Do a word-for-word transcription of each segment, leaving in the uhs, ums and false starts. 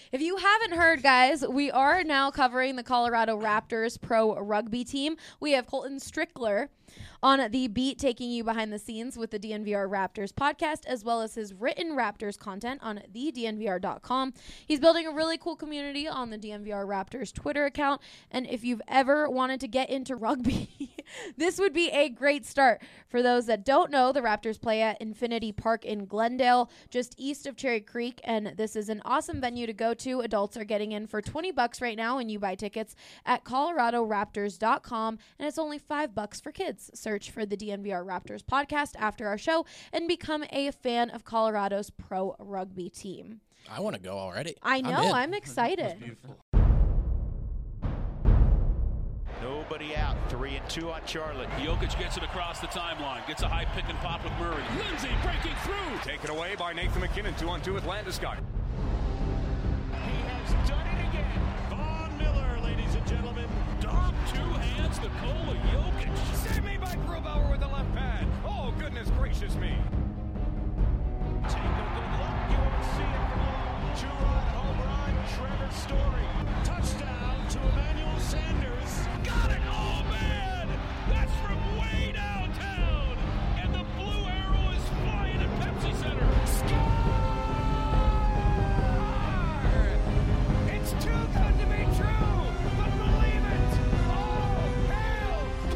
If you haven't heard, guys, we are now covering the Colorado Raptors pro rugby team. We have Colton Strickler on the beat, taking you behind the scenes with the D N V R Raptors podcast, as well as his written Raptors content on the D N V R dot com. He's building a really cool community on the D N V R Raptors Twitter account, and if you've ever wanted to get into rugby, this would be a great start. For those that don't know, the Raptors play at Infinity Park in Glendale, just east of Cherry Creek, and this is an awesome venue to go to. Adults are getting in for twenty bucks right now, and you buy tickets at Colorado Raptors dot com, and it's only five bucks for kids. Search for the D N V R Raptors podcast after our show and become a fan of Colorado's pro rugby team. I want to go already. I know. I'm, I'm excited. That's beautiful. Nobody out. Three and two on Charlotte. Jokic gets it across the timeline. Gets a high pick and pop with Murray. Lindsay breaking through. Taken away by Nathan McKinnon. Two on two with Landeskog. He has done it again. Von Miller, ladies and gentlemen. Dom, two hands, Nikola Jokic. Save me by Grubauer with the left pad. Oh, goodness gracious me. Take a good look. You won't see it for long. Two-run home run, Trevor Story. Touchdown to Emmanuel Sanders. Got it! Oh, man! That's from way downtown! And the blue arrow is flying at Pepsi Center. Score! It's too good to be true, but believe it! Oh, hell,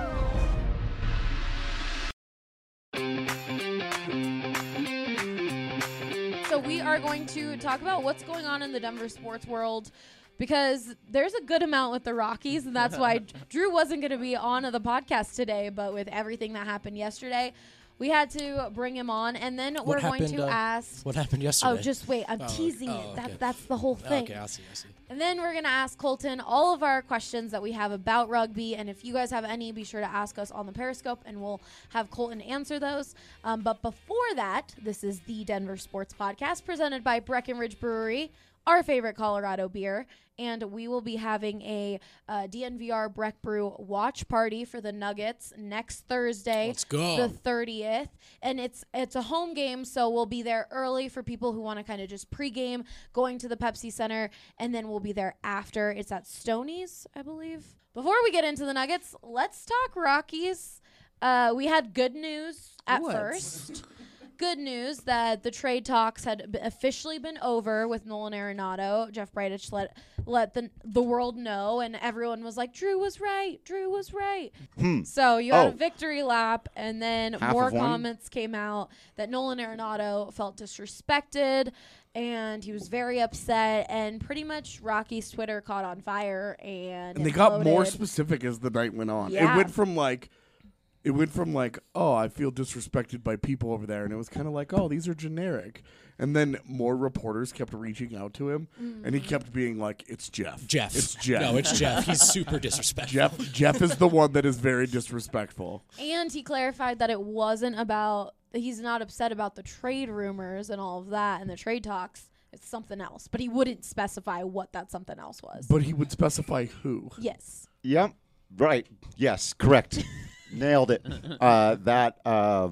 cow! So we are going to talk about what's going on in the Denver sports world, because there's a good amount with the Rockies, and that's why Drew wasn't going to be on the podcast today, but with everything that happened yesterday, we had to bring him on, and then What we're happened, going to uh, ask... What happened yesterday? Oh, just wait. I'm Oh, teasing oh, it. okay. That, that's the whole thing. Okay, I see, I see. And then we're going to ask Colton all of our questions that we have about rugby. And if you guys have any, be sure to ask us on the Periscope, and we'll have Colton answer those. Um, but before that, this is the Denver Sports Podcast presented by Breckenridge Brewery, our favorite Colorado beer. And we will be having a uh, D N V R Breck Brew watch party for the Nuggets next Thursday, Let's go. the thirtieth. And it's it's a home game, so we'll be there early for people who want to kind of just pregame, going to the Pepsi Center, and then we'll be there after. It's at Stoney's, I believe. Before we get into the Nuggets, let's talk Rockies. Uh, we had good news at What? first. Good news that the trade talks had b- officially been over with Nolan Arenado. Jeff Bridich let let the the world know, and everyone was like, "Drew was right. Drew was right." Hmm. So you had Oh. a victory lap, and then Half more of one? comments came out that Nolan Arenado felt disrespected, and he was very upset. And pretty much Rocky's Twitter caught on fire, and, And they got more imploded. specific as the night went on. Yeah. It went from like, it went from like, oh, I feel disrespected by people over there, and it was kind of like, oh, these are generic. And then more reporters kept reaching out to him, Mm. and he kept being like, it's Jeff. Jeff. It's Jeff. No, it's Jeff. He's super disrespectful. Jeff. Jeff is the one that is very disrespectful. And he clarified that it wasn't about, he's not upset about the trade rumors and all of that and the trade talks. It's something else. But he wouldn't specify what that something else was. But he would specify who. Yes. Yep. Right. Yes. Correct. Nailed it. Uh, that uh,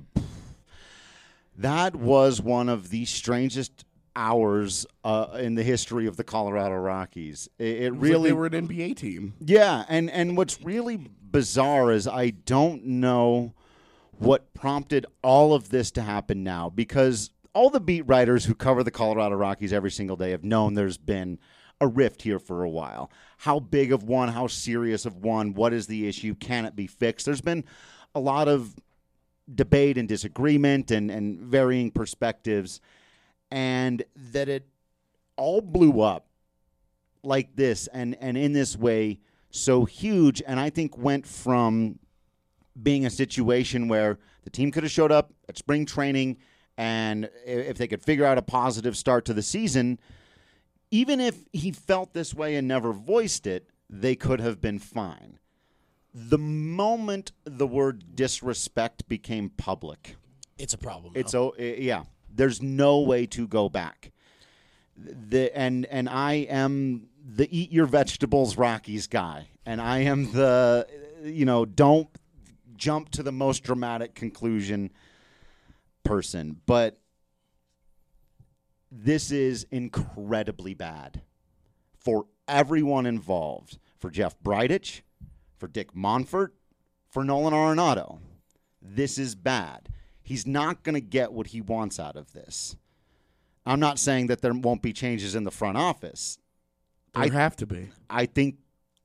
that was one of the strangest hours uh, in the history of the Colorado Rockies. It, it, It was really like they were an N B A team. Yeah, and, and what's really bizarre is I don't know what prompted all of this to happen now, because all the beat writers who cover the Colorado Rockies every single day have known there's been a rift here for a while. How big of one, how serious of one, what is the issue, can it be fixed? There's been a lot of debate and disagreement and, and varying perspectives, and that it all blew up like this and, and in this way so huge, and I think went from being a situation where the team could have showed up at spring training, and if they could figure out a positive start to the season, even if he felt this way and never voiced it, they could have been fine. The moment the word disrespect became public, It's a problem. it's now. oh yeah. There's no way to go back. The and and I am the eat your vegetables Rockies guy, and I am the you know don't jump to the most dramatic conclusion person, but this is incredibly bad for everyone involved, for Jeff Bridich, for Dick Monfort, for Nolan Arenado. This is bad. He's not going to get what he wants out of this. I'm not saying that there won't be changes in the front office. There I have to be. I think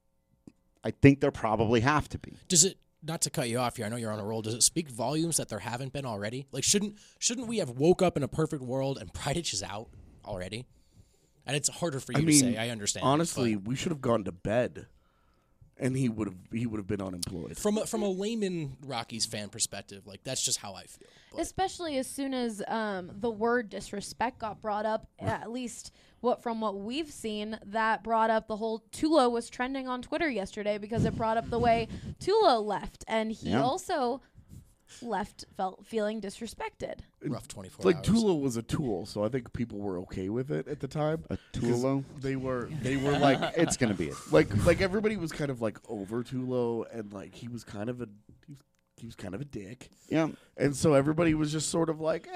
I think there probably have to be. Does it, not to cut you off here, I know you're on a roll, does it speak volumes that there haven't been already? Like, shouldn't shouldn't we have woke up in a perfect world and Bridich is out already? And it's harder for you I to mean, say, I understand. honestly, but we should have gone to bed, and he would have he would have been unemployed. from a, from a layman Rockies fan perspective, like, that's just how I feel. But Especially as soon as um, the word disrespect got brought up, at least what from what we've seen, that brought up the whole Tulo was trending on Twitter yesterday because it brought up the way Tulo left, and he Yeah. also left felt feeling disrespected. rough twenty-four It's like hours. Tula was a tool, so I think people were okay with it at the time. A 'Cause Tulo? They were they were like It's going to be it. like like everybody was kind of like over Tulo, and like he was kind of a he was, he was kind of a dick, Yeah. and so everybody was just sort of like, eh,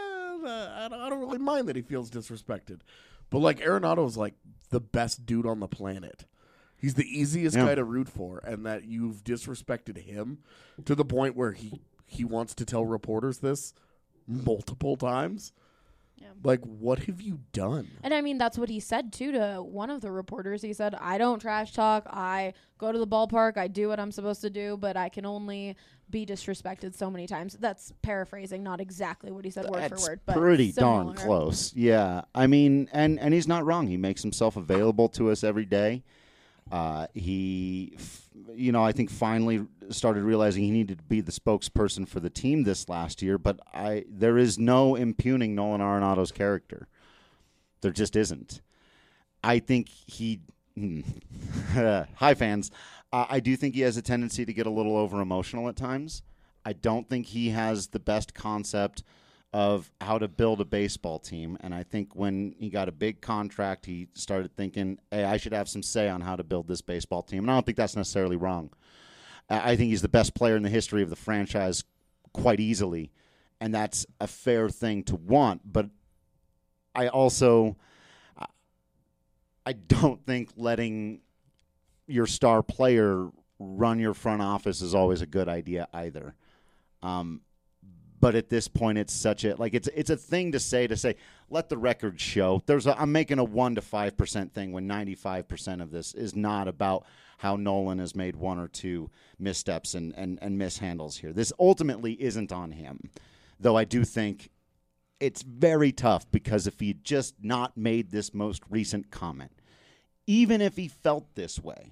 I don't, I don't really mind that he feels disrespected, but like Arenado's like the best dude on the planet. He's the easiest Yeah. guy to root for, and that you've disrespected him to the point where he he wants to tell reporters this multiple times. Yeah. Like, what have you done? And I mean, that's what he said, too, to one of the reporters. He said, I don't trash talk. I go to the ballpark. I do what I'm supposed to do, but I can only be disrespected so many times. That's paraphrasing, not exactly what he said word That's for word. But pretty darn similar. close. Yeah. I mean, and, and he's not wrong. He makes himself available to us every day. Uh, he, f- you know, I think finally started realizing he needed to be the spokesperson for the team this last year. But I, there is no impugning Nolan Arenado's character. There just isn't. I think he, hmm, hi fans, uh, I do think he has a tendency to get a little over emotional at times. I don't think he has the best concept of how to build a baseball team. And I think when he got a big contract, he started thinking, hey, I should have some say on how to build this baseball team. And I don't think that's necessarily wrong. I I think he's the best player in the history of the franchise quite easily. And that's a fair thing to want. But I also, I don't think letting your star player run your front office is always a good idea either. Um, But at this point, it's such a like it's it's a thing to say to say let the record show. There's a, I'm making a one to five percent thing when ninety-five percent of this is not about how Nolan has made one or two missteps and and and mishandles here. This ultimately isn't on him, though. I do think it's very tough because if he just not made this most recent comment, even if he felt this way,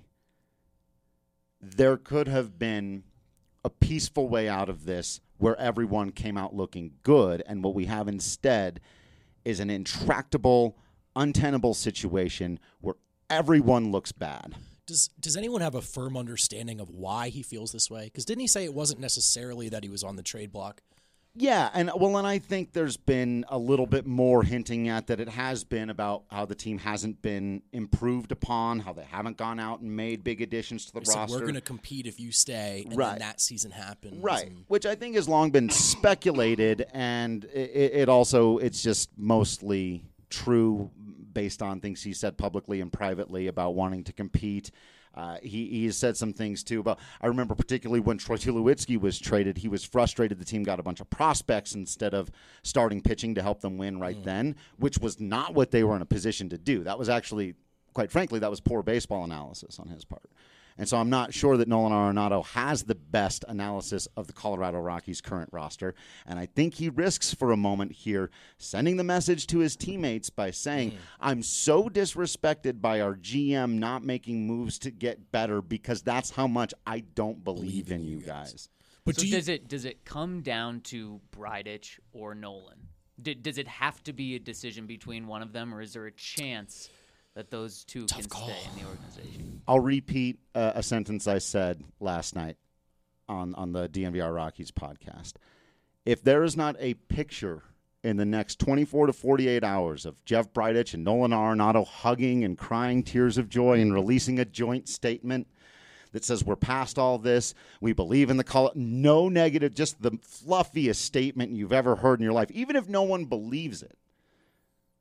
there could have been a peaceful way out of this where everyone came out looking good, and what we have instead is an intractable, untenable situation where everyone looks bad. Does does anyone have a firm understanding of why he feels this way? Because didn't he say it wasn't necessarily that he was on the trade block? Yeah, and well, and I think there's been a little bit more hinting at that it has been about how the team hasn't been improved upon, how they haven't gone out and made big additions to the He said, roster. we're going to compete if you stay, and Right. then that season happens. Right, and- which I think has long been speculated, and it, it also it's just mostly true based on things he said publicly and privately about wanting to compete. Uh, he, he has said some things, too, about I remember particularly when Troy Tulowitzki was traded, he was frustrated the team got a bunch of prospects instead of starting pitching to help them win right mm. then, which was not what they were in a position to do. That was actually, quite frankly, that was poor baseball analysis on his part. And so I'm not sure that Nolan Arenado has the best analysis of the Colorado Rockies' current roster. And I think he risks for a moment here sending the message to his teammates by saying, mm. I'm so disrespected by our G M not making moves to get better because that's how much I don't believe, believe in you guys. guys. But so do you- does it does it come down to Bridich or Nolan? D- does it have to be a decision between one of them, or is there a chance that those two Tough can call. stay in the organization? I'll repeat uh, a sentence I said last night on, on the D N V R Rockies podcast. If there is not a picture in the next twenty-four to forty-eight hours of Jeff Bridich and Nolan Arenado hugging and crying tears of joy and releasing a joint statement that says we're past all this, we believe in the call, no negative, just the fluffiest statement you've ever heard in your life, even if no one believes it,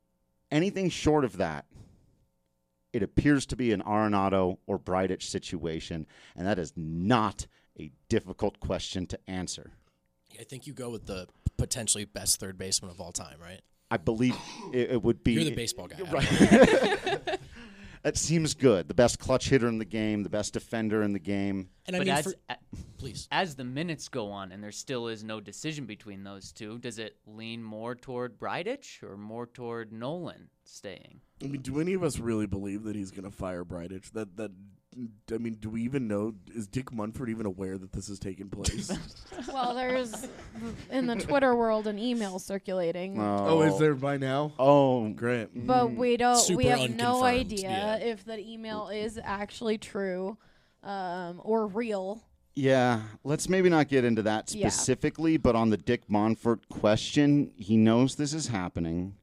Anything short of that, it appears to be an Arenado or Bridich situation, and that is not a difficult question to answer. I think you go with the potentially best third baseman of all time, right? I believe it, it would be. You're the baseball guy. Right. That seems good. The best clutch hitter in the game, the best defender in the game. And I But mean, as, for, a- please. as the minutes go on and there still is no decision between those two, does it lean more toward Bridich or more toward Nolan staying? I mean, do any of us really believe that he's going to fire Bridich? That that I mean, do we even know? Is Dick Munford even aware that this is taking place? Well, there's in the Twitter world an email circulating, oh, is there by now? Oh, Great. but we don't. Super we have no unconfirmed, idea yeah. if that email is actually true um, or real. yeah. Let's maybe not get into that Yeah. specifically, but on the Dick Monfort question, he knows this is happening.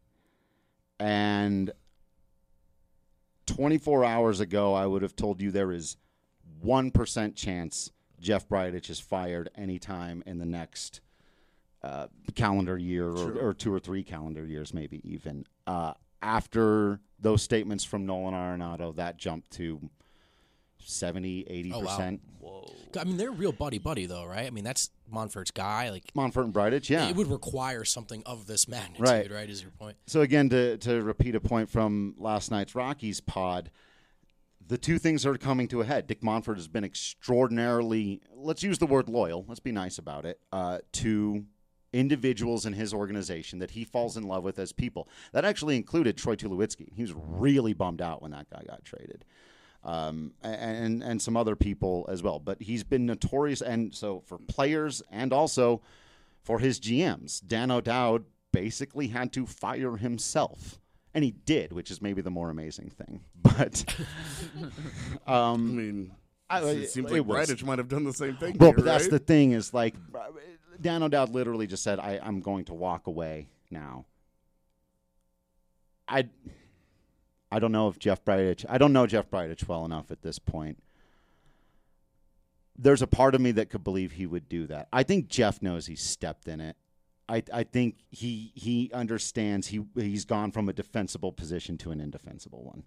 And twenty-four hours ago, I would have told you there is one percent chance Jeff Bridich is fired anytime in the next uh, calendar year or, or two or three calendar years, maybe even. Uh, after those statements from Nolan Arenado, that jumped to seventy, eighty percent. Whoa. I mean, they're real buddy-buddy, though, right? I mean, that's Monfort's guy. Like, Monfort and Bridich, yeah. it would require something of this magnitude, Right. right, is your point? So again, to to repeat a point from last night's Rockies pod, the two things are coming to a head. Dick Monfort has been extraordinarily, let's use the word loyal, let's be nice about it, uh, to individuals in his organization that he falls in love with as people. That actually included Troy Tulowitzki. He was really bummed out when that guy got traded. Um, and and some other people as well. But he's been notorious, and so for players and also for his G Ms. Dan O'Dowd basically had to fire himself. And he did, which is maybe the more amazing thing. But I um, mean, I- it seems it like was- Bridich might have done the same thing. well, here, but that's right? the thing is like Dan O'Dowd literally just said, I, I'm going to walk away now. I I don't know if Jeff Bridich, I don't know Jeff Bridich well enough at this point. There's a part of me that could believe he would do that. I think Jeff knows he's stepped in it. I I think he he understands he he's gone from a defensible position to an indefensible one.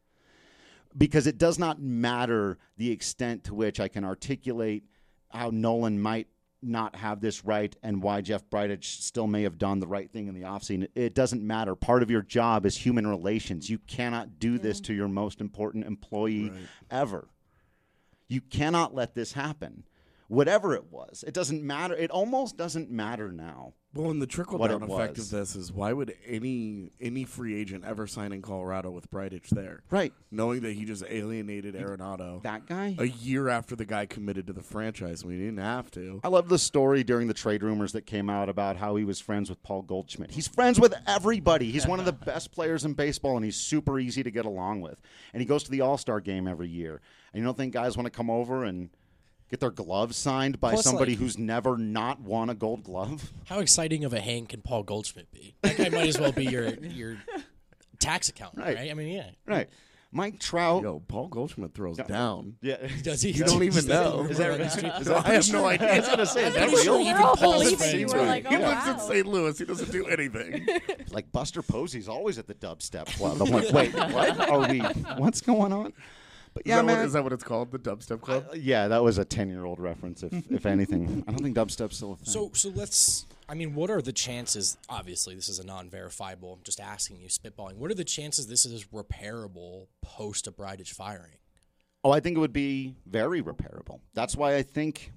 Because it does not matter the extent to which I can articulate how Nolan might not have this right and why Jeff Bridich still may have done the right thing in the offseason. It doesn't matter. Part of your job is human relations. You cannot do this to your most important employee Right. ever. You cannot let this happen. Whatever it was, it doesn't matter. It almost doesn't matter now. Well, and the trickle what down it effect was. of this is why would any any free agent ever sign in Colorado with Bridich there, Right. knowing that he just alienated Arenado That guy? a year after the guy committed to the franchise when he didn't have to. I love the story during the trade rumors that came out about how he was friends with Paul Goldschmidt. He's friends with everybody. He's one of the best players in baseball, and he's super easy to get along with. And he goes to the All-Star game every year. And you don't think guys want to come over and get their gloves signed by Plus, somebody like- who's never not won a gold glove? How exciting of a hang can Paul Goldschmidt be? That guy might as well be your your tax accountant, Right. right? I mean, yeah. Right. Mike Trout. Yo, Paul Goldschmidt throws down. Yeah. Does he? You don't even Is that know. the Is that rumor on the right? street? Is that- I have no idea. I was going to say, is that pretty sure real? even We're all Paul's believing friends you. with We're him. like, He oh, lives in wow. Saint Louis. He doesn't do anything. Like Buster Posey's always at the dubstep club. I'm like, wait, what are we? What's going on? But Is, yeah, that man. what, is that what it's called? The Dubstep Club? Uh, yeah, that was a ten-year-old reference, if if anything. I don't think dubstep's still a thing. So, so let's. I mean, what are the chances? Obviously, this is a non-verifiable. I'm just asking you, spitballing. What are the chances this is repairable post a Bridich firing? oh, I think it would be very repairable. That's why I think,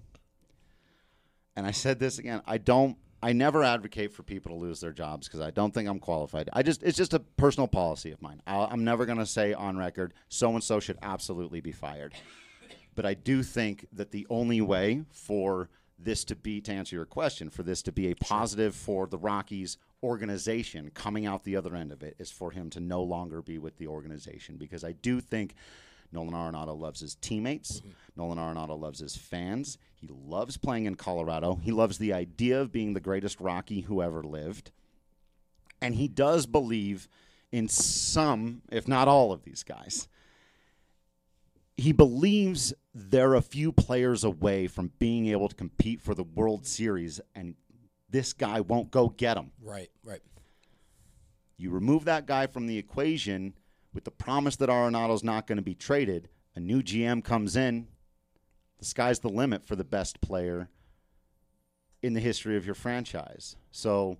and I said this again, I don't, I never advocate for people to lose their jobs because I don't think I'm qualified. I just, it's just a personal policy of mine. I'll, I'm never going to say on record, so-and-so should absolutely be fired. But I do think that the only way for this to be, to answer your question, for this to be a positive for the Rockies organization coming out the other end of it is for him to no longer be with the organization. Because I do think Nolan Arenado loves his teammates. Mm-hmm. Nolan Arenado loves his fans. He loves playing in Colorado. He loves the idea of being the greatest Rocky who ever lived. And he does believe in some, if not all of these guys. He believes they're a few players away from being able to compete for the World Series, and this guy won't go get them. Right, right. You remove that guy from the equation with the promise that Arenado's not going to be traded. A new G M comes in. The sky's the limit for the best player in the history of your franchise. So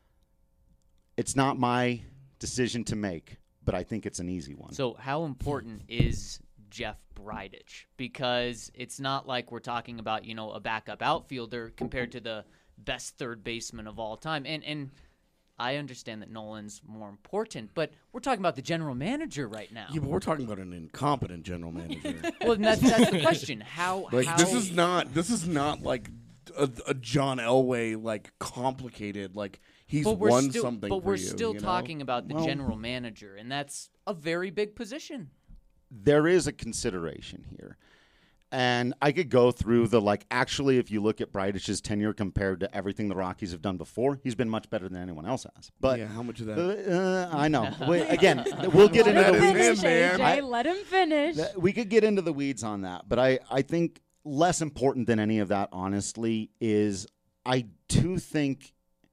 it's not my decision to make, but I think it's an easy one. So how important is Jeff Bridich? Because it's not like we're talking about, you know, a backup outfielder compared to the best third baseman of all time. And and I understand that Nolan's more important, but we're talking about the general manager right now. Yeah, but we're talking about an incompetent general manager. Well, that's, that's the question. How, like how this is not this is not like a, a John Elway like complicated like he's but we're won still, something. But for we're you, still you know? talking about the Well- general manager, and that's a very big position. There is a consideration here. And I could go through the, like, actually, if you look at Bridich's tenure compared to everything the Rockies have done before, he's been much better than anyone else has. But yeah, how much of that? uh, I know. Wait, again, we'll get into Let the him weeds. finish, man. A J. I- Let him finish. Th- We could get into the weeds on that, but I, I think less important than any of that, honestly, is I do think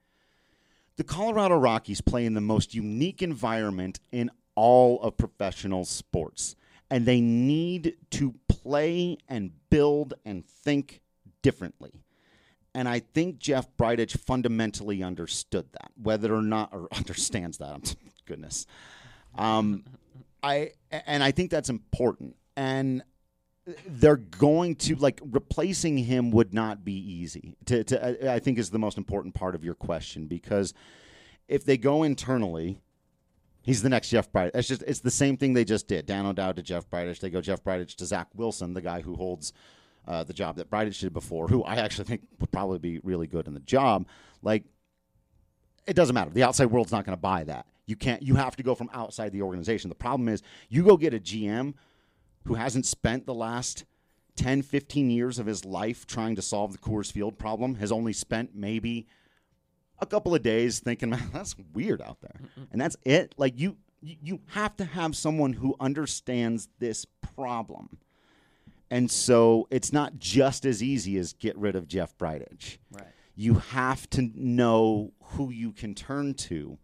the Colorado Rockies play in the most unique environment in all of professional sports, and they need to play and build and think differently. And I think Jeff Bridich fundamentally understood that, whether or not, or understands that. Goodness. Um, I and I think that's important. And they're going to, like, replacing him would not be easy. To, to I think is the most important part of your question, because if they go internally, he's the next Jeff Bridich. It's just it's the same thing they just did. Dan O'Dowd to Jeff Bridich. They go Jeff Bridich to Zach Wilson, the guy who holds uh, the job that Bridich did before, who I actually think would probably be really good in the job. Like, it doesn't matter. The outside world's not going to buy that. You can't. You have to go from outside the organization. The problem is you go get a G M who hasn't spent the last ten, fifteen years of his life trying to solve the Coors Field problem, has only spent maybe a couple of days thinking, man, that's weird out there. And that's it. Like, you, you have to have someone who understands this problem. And so it's not just as easy as get rid of Jeff Bridich. Right. You have to know who you can turn to.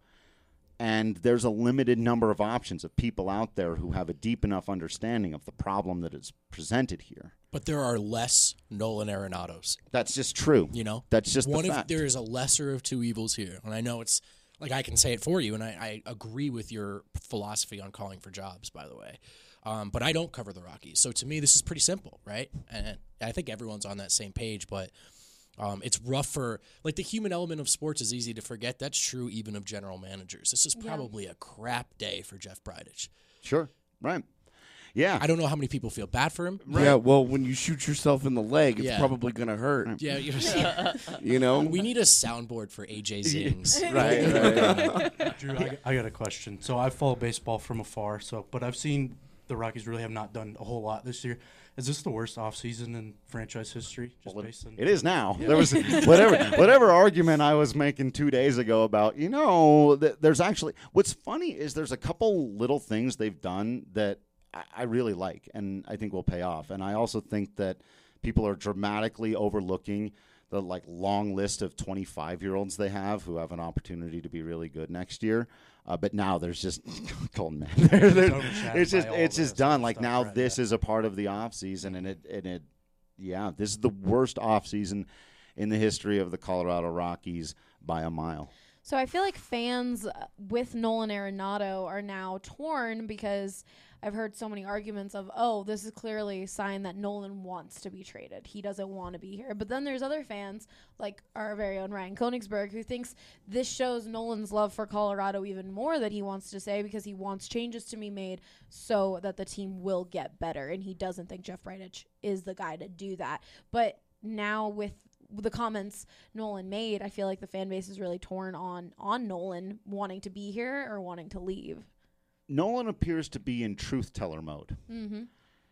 And there's a limited number of options of people out there who have a deep enough understanding of the problem that is presented here. But there are less Nolan Arenados. That's just true. You know, That's just one the of fact. there is a lesser of two evils here, and I know it's like I can say it for you, and I, I agree with your philosophy on calling for jobs. By the way, um, but I don't cover the Rockies, so to me this is pretty simple, right? And I think everyone's on that same page, but. Um, it's rough for, like, the human element of sports is easy to forget. That's true even of general managers. This is probably a crap day for Jeff Bridich. Sure. Right. Yeah. I don't know how many people feel bad for him. Yeah, well, when you shoot yourself in the leg, it's Yeah. probably going to hurt. Yeah, you You know? we need a soundboard for A J Zings. right, right. Drew, I, I got a question. So I follow baseball from afar, so but I've seen the Rockies really have not done a whole lot this year. Is this the worst offseason in franchise history? Just Well, based on it is now. There was whatever whatever argument I was making two days ago about, you know, th- there's actually what's funny is there's a couple little things they've done that I, I really like and I think will pay off. And I also think that people are dramatically overlooking the like long list of twenty-five year olds they have who have an opportunity to be really good next year. Uh, but now there's just Colton, man. They're- they're- overshadowed it's just by all it's the just done. stuff, Like now right, this yeah. is a part of the off season, and it and it yeah, this is the worst off season in the history of the Colorado Rockies by a mile. So I feel like fans uh, with Nolan Arenado are now torn because I've heard so many arguments of, oh, this is clearly a sign that Nolan wants to be traded. He doesn't want to be here. But then there's other fans, like our very own Ryan Koenigsberg, who thinks this shows Nolan's love for Colorado even more that he wants to say because he wants changes to be made so that the team will get better. And he doesn't think Jeff Bridich is the guy to do that. But now with the comments Nolan made, I feel like the fan base is really torn on on Nolan wanting to be here or wanting to leave. Nolan appears to be in truth teller mode. Mm-hmm.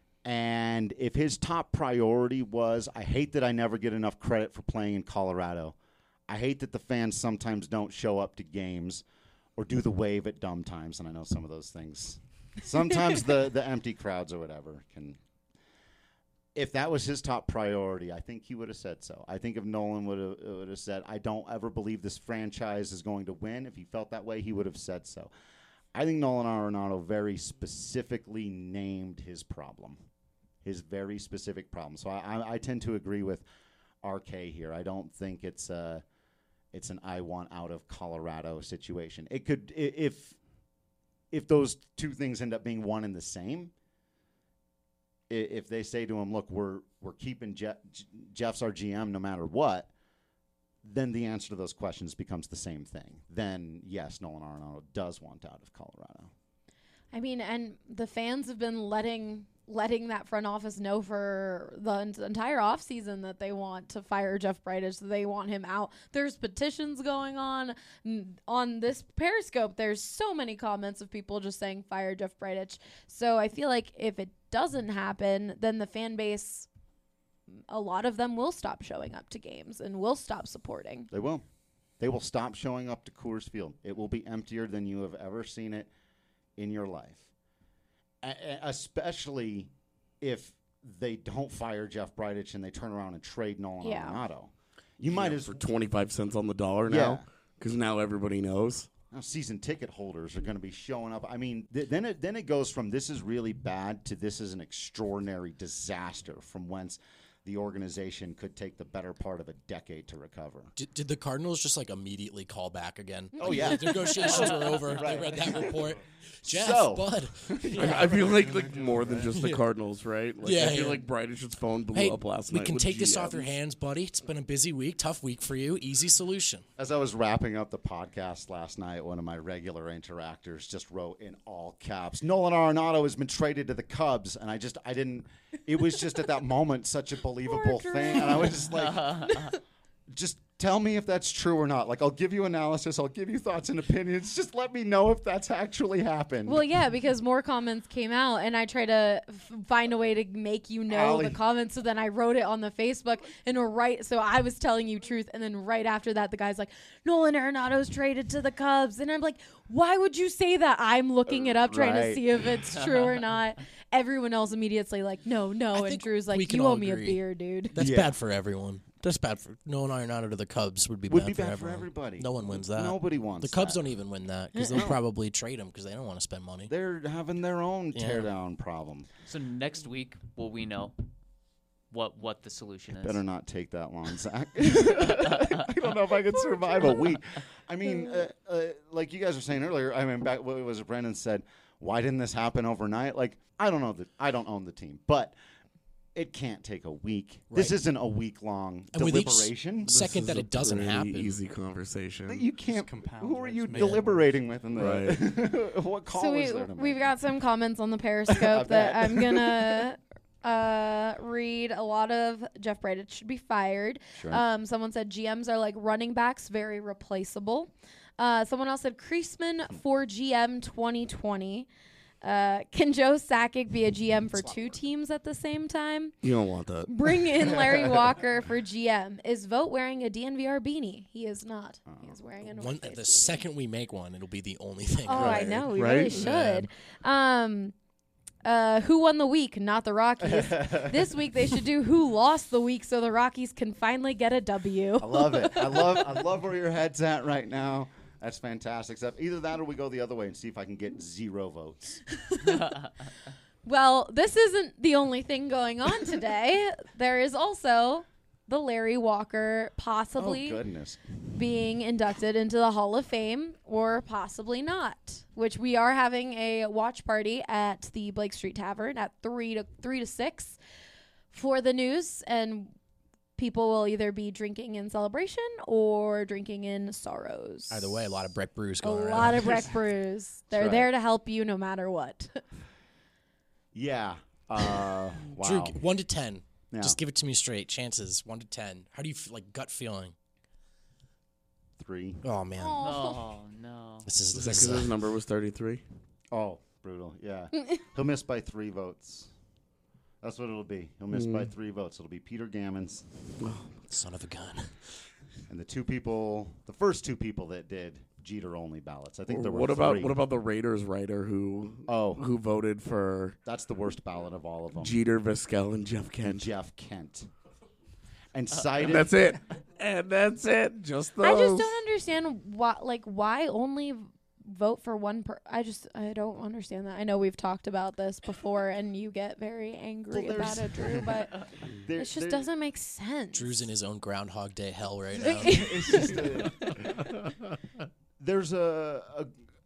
And if his top priority was, I hate that I never get enough credit for playing in Colorado. I hate that the fans sometimes don't show up to games or do the wave at dumb times. And I know some of those things. Sometimes the, the empty crowds or whatever can. if that was his top priority, I think he would have said so. I think if Nolan would have would have said, I don't ever believe this franchise is going to win, if he felt that way, he would have said so. I think Nolan Arenado very specifically named his problem, his very specific problem. So I, I, I tend to agree with R K here. I don't think it's a, it's an I want out of Colorado situation. It could, if if those two things end up being one and the same, if they say to him, look, we're we're keeping Jeff, Jeff's our G M no matter what, then the answer to those questions becomes the same thing. Then, yes, Nolan Arenado does want out of Colorado. I mean, and the fans have been letting letting that front office know for the en- entire offseason that they want to fire Jeff Bridich, that they want him out. There's petitions going on. N- on this Periscope, there's so many comments of people just saying, fire Jeff Bridich. So I feel like if it doesn't happen, then the fan base, a lot of them will stop showing up to games and will stop supporting. They will. They will stop showing up to Coors Field. It will be emptier than you have ever seen it in your life. A- especially if they don't fire Jeff Bridich and they turn around and trade Nolan Yeah. Arenado. You might Yeah, as for twenty-five cents on the dollar Yeah. now, because now everybody knows. Now season ticket holders are going to be showing up. I mean, th- then it then it goes from this is really bad to this is an extraordinary disaster from whence the organization could take the better part of a decade to recover. Did, did the Cardinals just like immediately call back again? Oh, yeah. The negotiations were over. They read that report. Jeff, So- bud. I, I feel like like more than just the Yeah. Cardinals, right? Like, Yeah, I feel yeah. like Bridich's phone blew Hey, up last we night. can with take this G off your Ms. hands, buddy. It's been a busy week, tough week for you. Easy solution. As I was wrapping up the podcast last night, one of my regular interactors just wrote in all caps, Nolan Arenado has been traded to the Cubs. And I just, I didn't, it was just at that moment such a believable thing. And I was just like, just tell me if that's true or not. Like, I'll give you analysis. I'll give you thoughts and opinions. Just let me know if that's actually happened. Well, yeah, because more comments came out, and I try to f- find a way to make you know Allie. the comments. So then I wrote it on the Facebook, and right. So I was telling you truth, and then right after that, the guy's like, "Nolan Arenado's traded to the Cubs," and I'm like, "Why would you say that?" I'm looking it up, trying to Right. see if it's true or not. Everyone else immediately like, "No, no," and think Drew's we like, can "You owe all me agree. a beer, dude." That's Yeah. bad for everyone. That's bad for Nolan Arenado to the Cubs would be Would bad, be for, bad for everyone. everybody. No one wins that. Nobody wants The Cubs that. don't even win that because they'll probably trade him because they don't want to spend money. They're having their own Yeah. teardown problem. So next week will we know what what the solution is? Better not take that long, Zach. I don't know if I could survive a week. I mean, uh, uh, like you guys were saying earlier. I mean, back what was it Brendan said? Why didn't this happen overnight? Like, I don't know that I don't own the team, but it can't take a week. This Right. isn't a week long And with each deliberation. s- second This that is a it doesn't pretty happen. Easy conversation. You can't. compounds, Who are right? you Just make it worse. deliberating with in the? Right. what call So we, is there to make? we've got some comments on the Periscope bet. that I'm gonna uh, read. A lot of Jeff Bridich should be fired. Sure. Um, someone said G Ms are like running backs, very replaceable. Uh, someone else said Kreisman for G M twenty twenty. Uh, can Joe Sakic be a G M for two teams at the same time? You don't want that. Bring in Larry Walker for G M. Is Vogt wearing a D N V R beanie? He is not. He is wearing a North One, Face the beanie. second we make one, it'll be the only thing. Oh, I know. We Right? really should. Um, uh, who won the week? Not the Rockies. This week they should do who lost the week so the Rockies can finally get a W. I love it. I love. I love where your head's at right now. That's fantastic. Except either that or we go the other way and see if I can get zero votes. Well, this isn't the only thing going on today. There is also the Larry Walker possibly Oh goodness. being inducted into the Hall of Fame or possibly not, which we are having a watch party at the Blake Street Tavern at three to three to six for the news, and people will either be drinking in celebration or drinking in sorrows. Either way, a lot of Breck brews A going around. lot of Breck brews. They're right. there to help you no matter what. Yeah. Uh, wow. Drew, g- one to ten. Yeah. Just give it to me straight. Chances one to ten. How do you f- like gut feeling? Three. Oh man, Oh no. this is Is this that 'cause is, his uh, number was thirty-three? Oh, brutal. Yeah. He'll miss by three votes. That's what it'll be. He'll miss by three votes. It'll be Peter Gammons son of a gun. and the two people, the first two people that did, Jeter only ballots. I think Or there were what about three. what about the Raiders writer who Oh. who voted for That's the worst ballot of all of them. Jeter, Vizquel, and Jeff Kent? Jeff Kent. And cited. And that's it. And that's it. Just those. I just don't understand why. Like, why only vote for one per? I just I don't understand that. I know we've talked about this before, and you get very angry Well, about there's- it, Drew. But There- it just there- doesn't make sense. Drew's in his own Groundhog Day hell right now. It's just a, there's a, a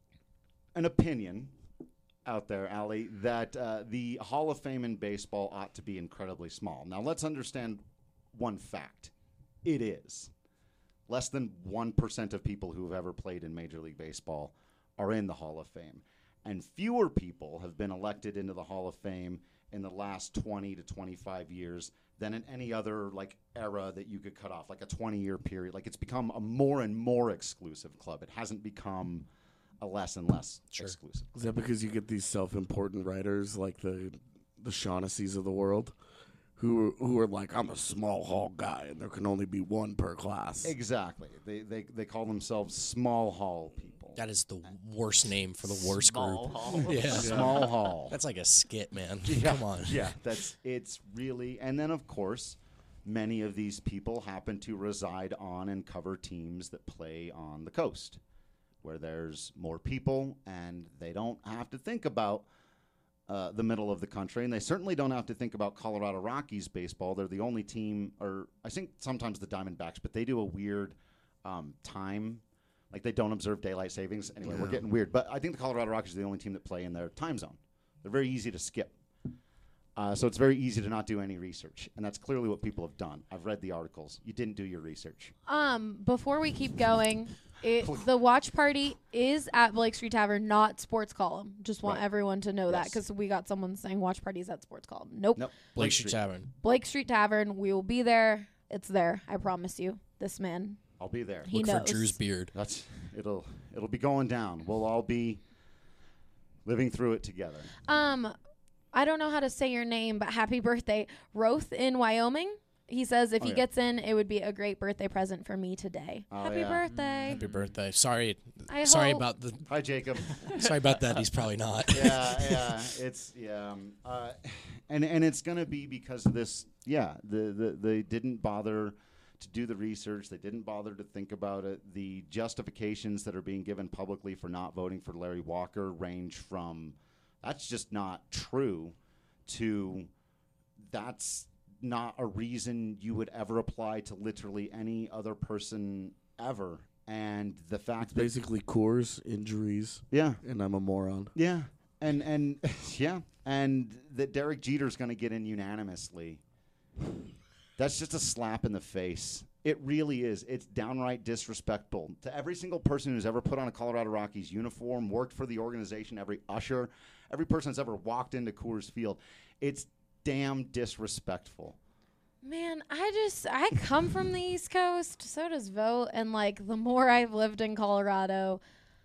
an opinion out there, Allie, that uh, the Hall of Fame in baseball ought to be incredibly small. Now, let's understand one fact. It is. Less than one percent of people who have ever played in Major League Baseball are in the Hall of Fame. And fewer people have been elected into the Hall of Fame in the last twenty to twenty-five years than in any other like era that you could cut off, like a twenty-year period. Like, it's become a more and more exclusive club. It hasn't become a less and less Sure. exclusive. Is that because you get these self-important writers like the the Shaughnessy's of the world, who who are like, I'm a small hall guy, and there can only be one per class. Exactly. They they they call themselves small hall people. That is the worst name for the worst Small group. hall. Yeah. Small hall. That's like a skit, man. Yeah, Come on. Yeah, that's it's really, and then of course, many of these people happen to reside on and cover teams that play on the coast, where there's more people, and they don't have to think about uh, the middle of the country, and they certainly don't have to think about Colorado Rockies baseball. They're the only team, or I think sometimes the Diamondbacks, but they do a weird um, time. Like, they don't observe daylight savings. Anyway, we're getting weird. But I think the Colorado Rockies are the only team that play in their time zone. They're very easy to skip. Uh, so it's very easy to not do any research. And that's clearly what people have done. I've read the articles. You didn't do your research. Um, before we keep going, it, the watch party is at Blake Street Tavern, not Sports Column. Just want Right. everyone to know that, Yes. because we got someone saying watch parties at Sports Column. Nope. Nope. Blake Street Tavern. Blake Street Tavern. We will be there. It's there. I promise you. This man. I'll be there. He Look knows. for Drew's beard. That's it'll it'll be going down. We'll all be living through it together. Um, I don't know how to say your name, but happy birthday, Roth in Wyoming. He says if Oh, he yeah. gets in, it would be a great birthday present for me today. Oh, happy yeah. birthday. Happy birthday. Sorry. I sorry hope- about the Hi, Jacob. sorry about that. He's probably not. yeah, yeah. It's yeah. Um, uh, and and it's gonna be because of this. Yeah, the, the they didn't bother to do the research. They didn't bother to think about it. The justifications that are being given publicly for not voting for Larry Walker range from that's just not true to that's not a reason you would ever apply to literally any other person ever. And the fact It's that basically Coors injuries, yeah, and I'm a moron. yeah, and and yeah, and that Derek Jeter's going to get in unanimously. That's just a slap in the face. It really is. It's downright disrespectful to every single person who's ever put on a Colorado Rockies uniform, worked for the organization, every usher, every person that's ever walked into Coors Field. It's damn disrespectful. Man, I just I come from the East Coast, so does Vote, and like the more I've lived in Colorado,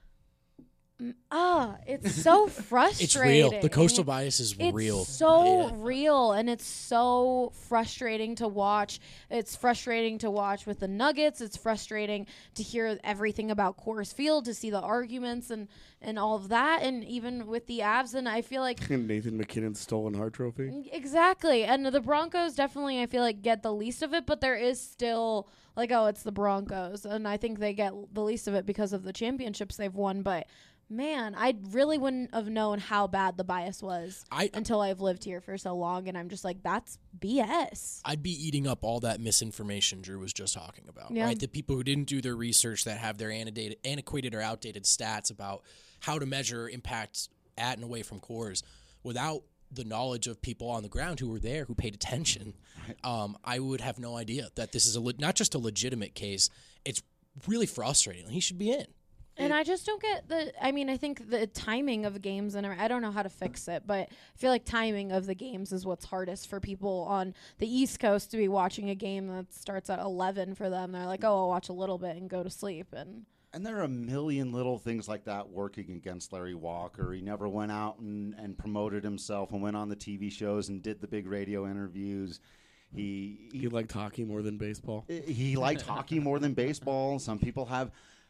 mm, ah, it's so frustrating. It's real. The coastal bias is It's real. so Yeah. real, and it's so frustrating to watch. It's frustrating to watch with the Nuggets. It's frustrating to hear everything about Coors Field, to see the arguments and, and all of that, and even with the Avs. And I feel like And Nathan McKinnon's stolen heart trophy. exactly. And the Broncos definitely, I feel like, get the least of it, but there is still like, oh, it's the Broncos, and I think they get the least of it because of the championships they've won. But man, I really wouldn't have known how bad the bias was I until I've lived here for so long, and I'm just like, that's B S. I'd be eating up all that misinformation Drew was just talking about, Yeah. right? The people who didn't do their research, that have their annotated, antiquated or outdated stats about how to measure impact at and away from Coors without the knowledge of people on the ground who were there, who paid attention. Um, I would have no idea that this is a le- not just a legitimate case. It's really frustrating. He should be in. And I just don't get the. I mean, I think the timing of games, and I don't know how to fix it, but I feel like timing of the games is what's hardest for people on the East Coast to be watching a game that starts at eleven for them. They're like, oh, I'll watch a little bit and go to sleep. And And there are a million little things like that working against Larry Walker. He never went out and, and promoted himself and went on the T V shows and did the big radio interviews. He he, He liked hockey more than baseball. he liked hockey more than baseball. Some people have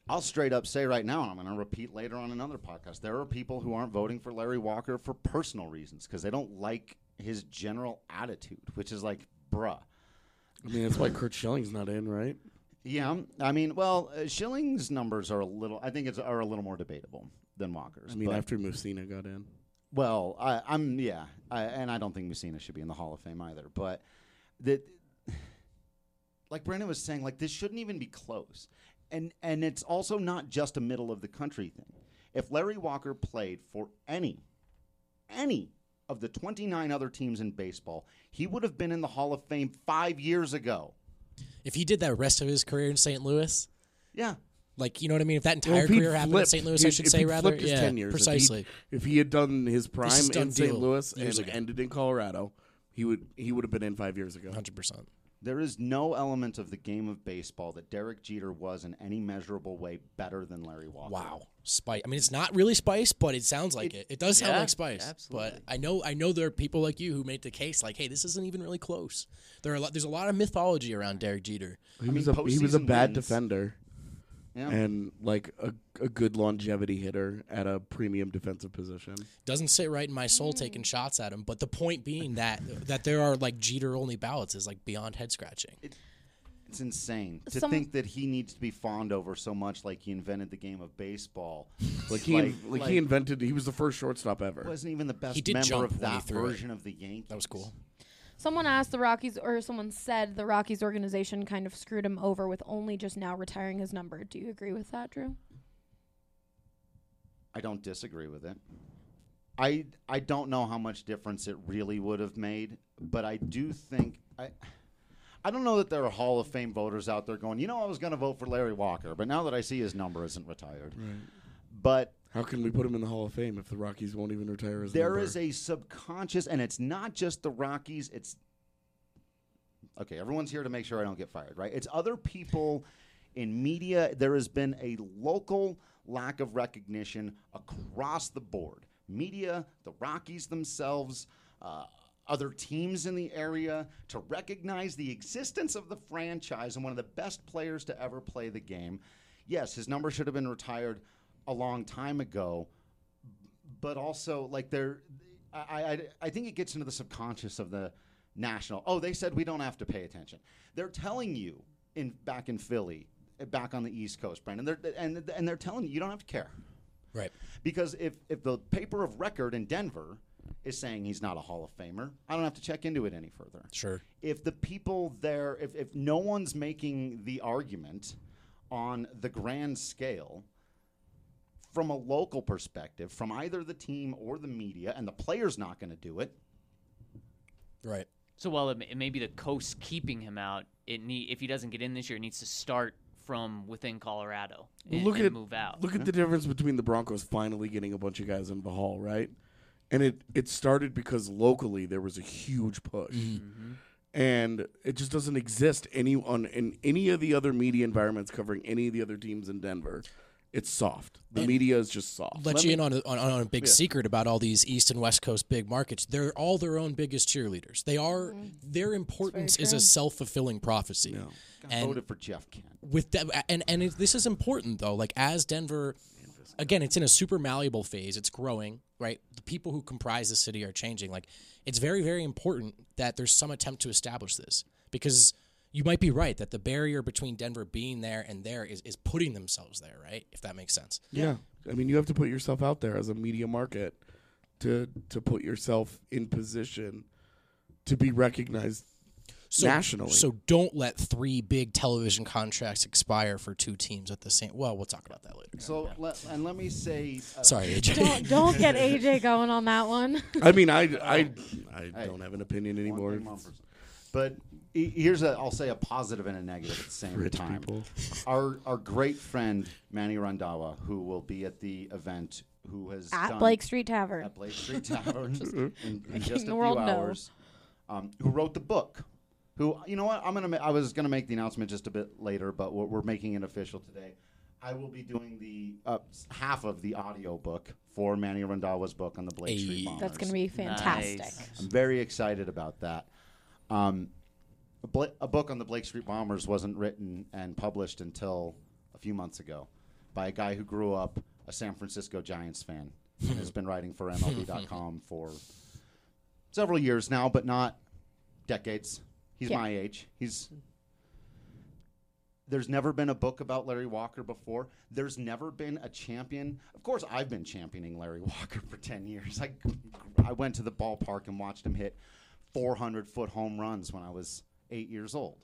I'll straight up say right now, and I'm going to repeat later on another podcast, there are people who aren't voting for Larry Walker for personal reasons because they don't like his general attitude, which is like, bruh. I mean, that's why Kurt Schilling's not in, right? Yeah, I mean, well, uh, Schilling's numbers are a little, I think it's are a little more debatable than Walker's. I mean, but, after Mussina got in. Well, I, I'm, yeah, I, and I don't think Mussina should be in the Hall of Fame either, but that, like Brandon was saying, like, this shouldn't even be close. And and it's also not just a middle of the country thing. If Larry Walker played for any, any of the twenty-nine other teams in baseball, he would have been in the Hall of Fame five years ago. If he did that rest of his career in Saint Louis, yeah, like you know what I mean. If that entire Well, if he'd career happened in flipped- Saint Louis, if- I should if say he'd rather, flipped his yeah, ten years, if he'd- precisely. If he had done his This prime is done in Saint deal Louis years and ago. ended in Colorado, he would he would have been in five years ago. Hundred percent. There is no element of the game of baseball that Derek Jeter was in any measurable way better than Larry Walker. Wow, Spice. I mean, it's not really Spice, but it sounds like it. It, does sound Yeah, like Spice. absolutely. But I know, I know there are people like you who make the case like, hey, this isn't even really close. There are a lot, there's a lot of mythology around Derek Jeter. He I was mean, a he was a postseason bad wins. defender Yeah. and like a a good longevity hitter at a premium defensive position. Doesn't sit right in my soul taking shots at him. But the point being that that there are like Jeter only ballots is like beyond head scratching. It's insane to Some- think that he needs to be fawned over so much like he invented the game of baseball. Like he Like- in- like, like- he invented. He was the first shortstop ever. Wasn't even the best He did member jump of when he that threw it. version of the Yankees. That was cool. Someone asked the Rockies, or someone said the Rockies organization kind of screwed him over with only just now retiring his number. Do you agree with that, Drew? I don't disagree with it. I I don't know how much difference it really would have made, but I do think I I don't know that there are Hall of Fame voters out there going, you know, I was going to vote for Larry Walker, but now that I see his number isn't retired. Right. But How can we put him in the Hall of Fame if the Rockies won't even retire his there number? is a subconscious, and it's not just the Rockies. It's okay. Everyone's here to make sure I don't get fired, right? It's other people in media. There has been a local lack of recognition across the board. Media, the Rockies themselves, uh, other teams in the area, to recognize the existence of the franchise and one of the best players to ever play the game. Yes, his number should have been retired a long time ago, but also like there, I, I I think it gets into the subconscious of the national. Oh, they said we don't have to pay attention. They're telling you in back in Philly, uh, back on the East Coast, Brandon, they're, and and they're telling you you don't have to care, Right. because if if the paper of record in Denver is saying he's not a Hall of Famer, I don't have to check into it any further. Sure. If the people there, if if no one's making the argument on the grand scale, from a local perspective, from either the team or the media, and the player's not going to do it. Right. So while it may, it may be the coast keeping him out, it need if he doesn't get in this year, it needs to start from within Colorado Well, and, look and at move out. Look at the difference between the Broncos finally getting a bunch of guys into the Hall, right? And it it started because locally there was a huge push, and it just doesn't exist any on in any of the other media environments covering any of the other teams in Denver. It's soft. The And media is just soft. Let, Let you me- in on a, on, on a big Yeah. secret about all these East and West Coast big markets. They're all their own biggest cheerleaders. They are their importance is a true. self fulfilling prophecy. Yeah. I And voted for Jeff Kent. with that, and and it, this is important though. Like as Denver, again, it's in a super malleable phase. It's growing, right? The people who comprise the city are changing. Like it's very very important that there's some attempt to establish this because. You might be right that the barrier between Denver being there and there is, is putting themselves there, right? If that makes sense. Yeah. I mean, you have to put yourself out there as a media market to to put yourself in position to be recognized So, nationally. So don't let three big television contracts expire for two teams at the same. Well, we'll talk about that later. So, let, and let me say, uh, Sorry, A J. Don't don't get A J going on that one. I mean, I I I Hey, don't have an opinion one anymore. thing mumpers. But he- here's a, I'll say a positive and a negative at the same Rich time. people. Our our great friend Manny Randhawa, who will be at the event, who has At done Blake Street Tavern. at Blake Street Tavern in, in just Making a the few world know. hours, um, who wrote the book. Who, you know what? I'm gonna. Ma- I was gonna make the announcement just a bit later, but we're, we're making it official today. I will be doing the uh, s- half of the audio book for Manny Randhawa's book on the Blake Street Hey. Bombers. That's going to be fantastic. Nice. I'm very excited about that. Um, a, Bla- a book on the Blake Street Bombers wasn't written and published until a few months ago. by a guy who grew up a San Francisco Giants fan and has been writing for M L B dot com for several years now, but not decades. He's Yeah. my age. He's There's never been a book about Larry Walker before. There's never been a champion. Of course, I've been championing Larry Walker for ten years. I, I went to the ballpark and watched him hit four hundred foot home runs when I was eight years old.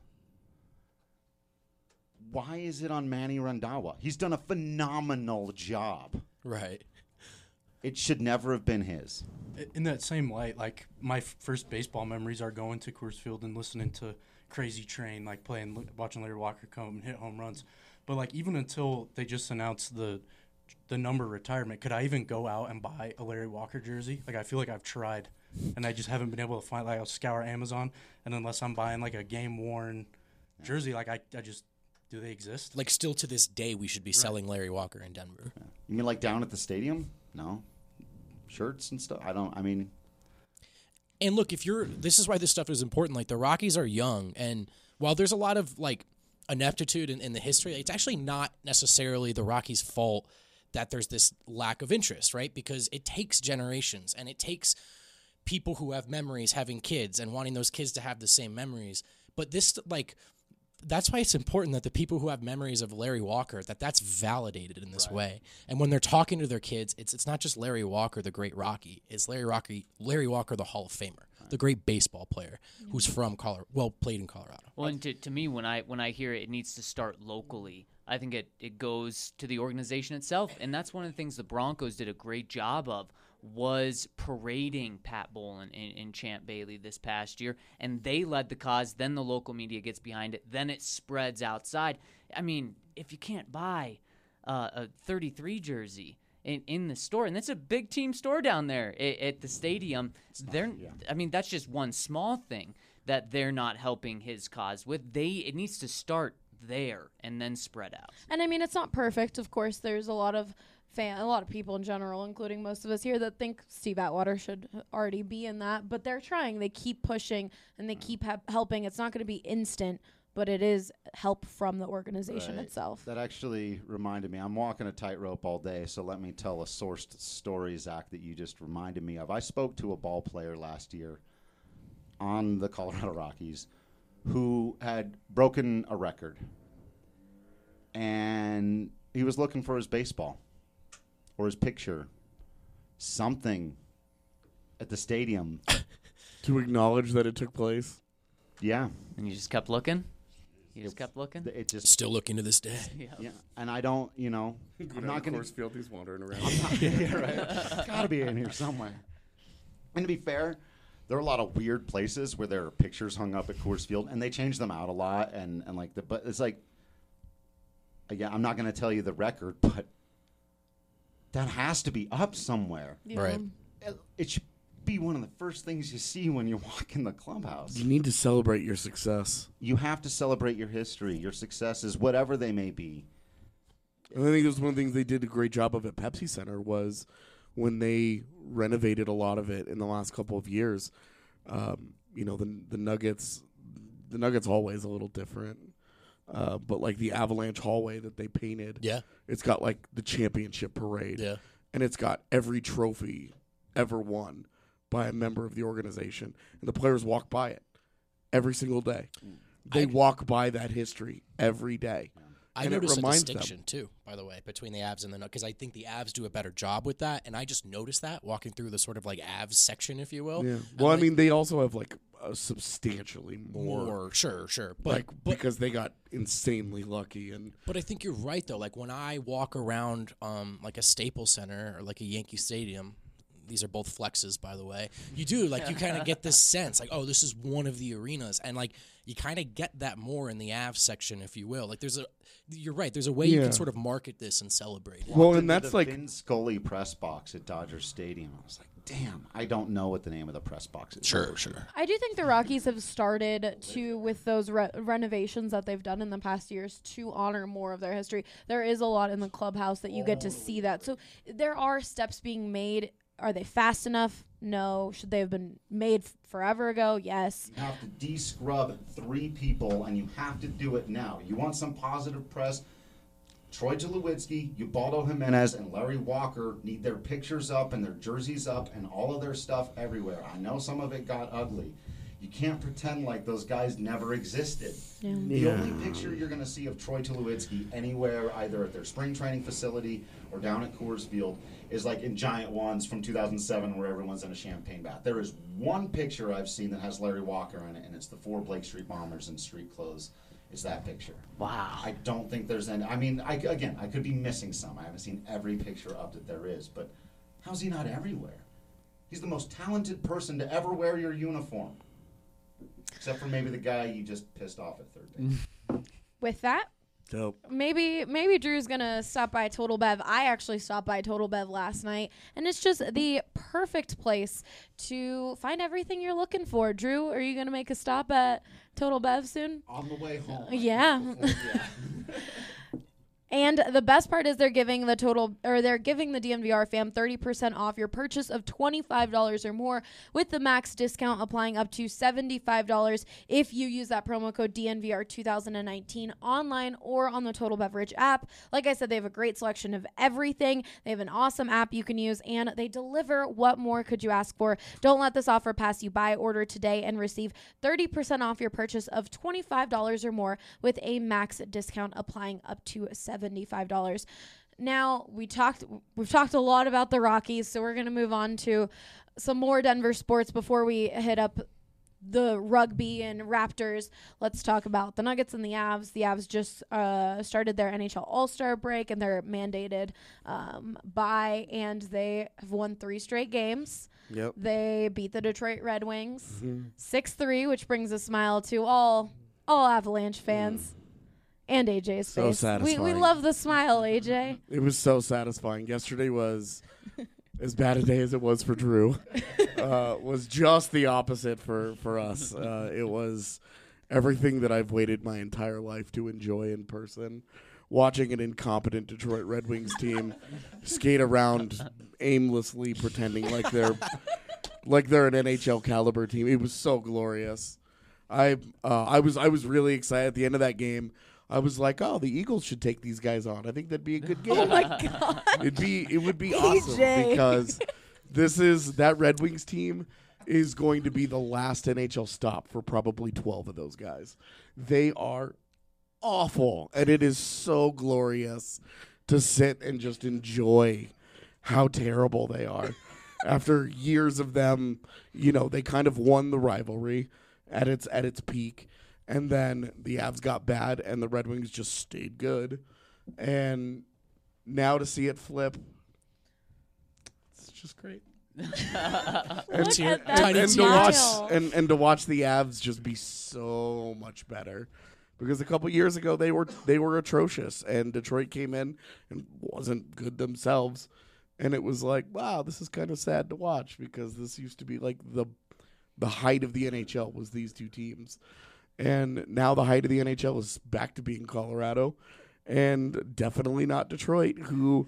Why is it on Manny Randhawa? He's done a phenomenal job. Right. It should never have been his. In that same light, like my f- first baseball memories are going to Coors Field and listening to Crazy Train, like playing, watching Larry Walker come and hit home runs. But like even until they just announced the the number retirement, could I even go out and buy a Larry Walker jersey? Like I feel like I've tried, and I just haven't been able to find. Like I'll scour Amazon, and unless I'm buying like a game worn jersey, like I, I just do they exist? Like still to this day, we should be selling Larry Walker in Denver. You mean like down at the stadium? No. Shirts and stuff? I don't, I mean. And look, if you're, this is why this stuff is important. Like the Rockies are young, and while there's a lot of like ineptitude in, in the history, it's actually not necessarily the Rockies' fault that there's this lack of interest, right? Because it takes generations, and it takes people who have memories having kids and wanting those kids to have the same memories. But this, like, that's why it's important that the people who have memories of Larry Walker, that that's validated in this right. way. And when they're talking to their kids, it's it's not just Larry Walker, the great Rocky. It's Larry Rocky, Larry Walker, the Hall of Famer, right. the great baseball player mm-hmm. who's from Colorado, well, played in Colorado. Well, and to, to me, when I when I hear it, it needs to start locally. I think it, it goes to the organization itself. And that's one of the things the Broncos did a great job of, was parading Pat Bowlen and, and Champ Bailey this past year, and they led the cause. Then the local media gets behind it. Then it spreads outside. I mean, if you can't buy uh, a thirty-three jersey in, in the store, and that's a big team store down there at, at the stadium, they're. Not, yeah. I mean, that's just one small thing that they're not helping his cause with. They it needs to start there and then spread out. And I mean, it's not perfect. Of course, there's a lot of. Fan, a lot of people in general, including most of us here, that think Steve Atwater should already be in that. But they're trying. They keep pushing, and they keep ha- helping. It's not going to be instant, but it is help from the organization right. itself. That actually reminded me. I'm walking a tightrope all day, so let me tell a sourced story, Zach, that you just reminded me of. I spoke to a ball player last year on the Colorado Rockies who had broken a record, and he was looking for his baseball. Or his picture, something at the stadium. To acknowledge that it took place? Yeah. And you just kept looking? You just kept looking? It just Still looking to this day. Yeah. yeah. And I don't, you know, I'm not going to. Coors Field, he's wandering around. yeah, right. Got to be in here somewhere. And to be fair, there are a lot of weird places where there are pictures hung up at Coors Field, and they change them out a lot. And, and like the, but it's like, again, I'm not going to tell you the record, but that has to be up somewhere. Yeah. Right. It, it should be one of the first things you see when you walk in the clubhouse. You need to celebrate your success. You have to celebrate your history, your successes, whatever they may be. And I think it was one of the things they did a great job of at Pepsi Center was when they renovated a lot of it in the last couple of years. Um, you know, the the Nuggets, the Nuggets hallway is a little different. Uh, but like the Avalanche hallway that they painted, Yeah. it's got like the championship parade, Yeah. and it's got every trophy ever won by a member of the organization, and the players walk by it every single day. They I- walk by that history every day. I And it noticed a reminds them. distinction, too, by the way, between the Avs and the Nuggets, because I think the Avs do a better job with that, and I just noticed that walking through the sort of like Avs section, if you will. Yeah. And Well, I like, mean, they also have like a substantially more, more, sure, sure. But, like but because they got insanely lucky and But I think you're right, though. Like, when I walk around um, like a Staples Center or like a Yankee Stadium, these are both flexes, by the way, you do, like, you kind of get this sense, like, oh, this is one of the arenas. And, like, you kind of get that more in the Avs section, if you will. Like, there's a, you're right, there's a way you Yeah. can sort of market this and celebrate it. well, Walked and into that's the like Vin Scully press box at Dodger Stadium. I was like, damn, I don't know what the name of the press box is. Sure, sure. I do think the Rockies have started to, with those re- renovations that they've done in the past years, to honor more of their history. There is a lot in the clubhouse that you get to see that. So there are steps being made. Are they fast enough? No. Should they have been made f- forever ago? Yes. You have to de-scrub three people, and you have to do it now. You want some positive press? Troy Tulowitzki, Ubaldo Jimenez, and Larry Walker need their pictures up and their jerseys up and all of their stuff everywhere. I know some of it got ugly. You can't pretend like those guys never existed. Yeah. The Yeah. only picture you're going to see of Troy Tulowitzki anywhere, either at their spring training facility or down at Coors Field, is like in giant ones from two thousand seven where everyone's in a champagne bath. There is one picture I've seen that has Larry Walker in it, and it's the four Blake Street Bombers in street clothes. It's that picture. Wow. I don't think there's any. I mean, I, again, I could be missing some. I haven't seen every picture up that there is, but how's he not everywhere? He's the most talented person to ever wear your uniform. Except for maybe the guy you just pissed off at third base. With that, Dope. maybe maybe Drew's gonna stop by Total Bev. I actually stopped by Total Bev last night, and it's just the perfect place to find everything you're looking for. Drew, are you gonna make a stop at Total Bev soon? On the way home. Yeah. Before- yeah. And the best part is they're giving the total, or they're giving the D N V R fam thirty percent off your purchase of twenty-five dollars or more, with the max discount applying up to seventy-five dollars if you use that promo code D N V R twenty nineteen online or on the Total Beverage app. Like I said, they have a great selection of everything. They have an awesome app you can use, and they deliver. What more could you ask for? Don't let this offer pass you by. Order today and receive thirty percent off your purchase of twenty-five dollars or more, with a max discount applying up to seventy-five dollars. Now, we talked we've talked a lot about the Rockies, so we're going to move on to some more Denver sports before we hit up the rugby and Raptors. Let's talk about the Nuggets and the Avs. The Avs just uh, started their N H L All-Star break, and they're mandated um, bye, and they have won three straight games. Yep. They beat the Detroit Red Wings six three, which brings a smile to all all Avalanche fans. And A J's So face. We, we satisfying. love the smile, A J. It was so satisfying. Yesterday was as bad a day as it was for Drew. Uh, was just the opposite for for us. Uh, it was everything that I've waited my entire life to enjoy in person. Watching an incompetent Detroit Red Wings team skate around aimlessly, pretending like they're like they're an N H L caliber team. It was so glorious. I uh, I was I was really excited at the end of that game. I was like, oh, the Eagles should take these guys on. I think that'd be a good game. Oh, my God. It'd be it would be awesome A J. because this is that Red Wings team is going to be the last N H L stop for probably twelve of those guys. They are awful, and it is so glorious to sit and just enjoy how terrible they are. After years of them, you know, they kind of won the rivalry at its at its peak. And then the Avs got bad, and the Red Wings just stayed good. And now to see it flip, it's just great. Look Tear- at that tiny and to smile. watch and, and to watch the Avs just be so much better, because a couple years ago they were they were atrocious, and Detroit came in and wasn't good themselves, and it was like, wow, this is kind of sad to watch, because this used to be like the the height of the N H L was these two teams. And now the height of the N H L is back to being Colorado, and definitely not Detroit, who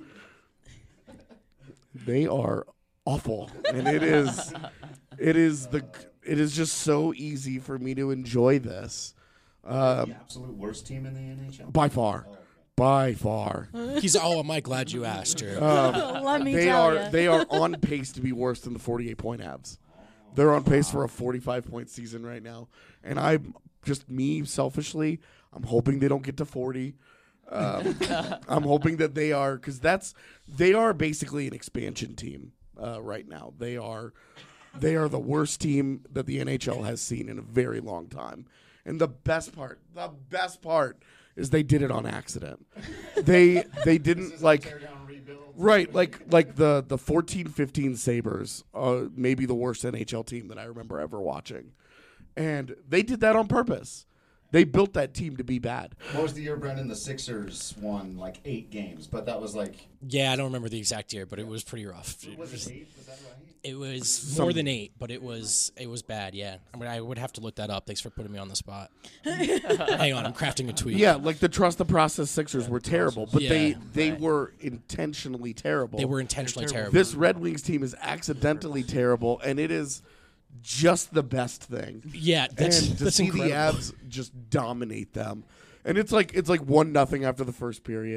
they are awful. And it is, it is the, it is just so easy for me to enjoy this. Um, the absolute worst team in the N H L? by far, by far, He's oh, am I glad you asked, Drew? Let me they tell are ya. they are on pace to be worse than the forty-eight point Avs. They're on pace for a forty-five point season right now, and I'm just me selfishly. I'm hoping they don't get to forty. Um, I'm hoping that they are, because that's they are basically an expansion team uh, right now. They are they are the worst team that the N H L has seen in a very long time. And the best part, the best part is they did it on accident. They they didn't like. Right, like like the, the fourteen fifteen Sabres, uh, maybe the worst N H L team that I remember ever watching. And they did that on purpose. They built that team to be bad. What was the year, Brendan? The Sixers won like eight games, but that was like... Yeah, I don't remember the exact year, but it was pretty rough. It Was was, it eight? Was that right? it was Some- more than eight, but it was it was bad. Yeah, I mean, I would have to look that up. Thanks for putting me on the spot. Hang on, I'm crafting a tweet. Yeah, like the Trust the Process Sixers were terrible, but they, Yeah, they right. were intentionally terrible. They were intentionally terrible. This Red Wings team is accidentally terrible, and it is just the best thing. Yeah, that's and to that's see incredible. the Avs just dominate them, and it's like it's like one nothing after the first period,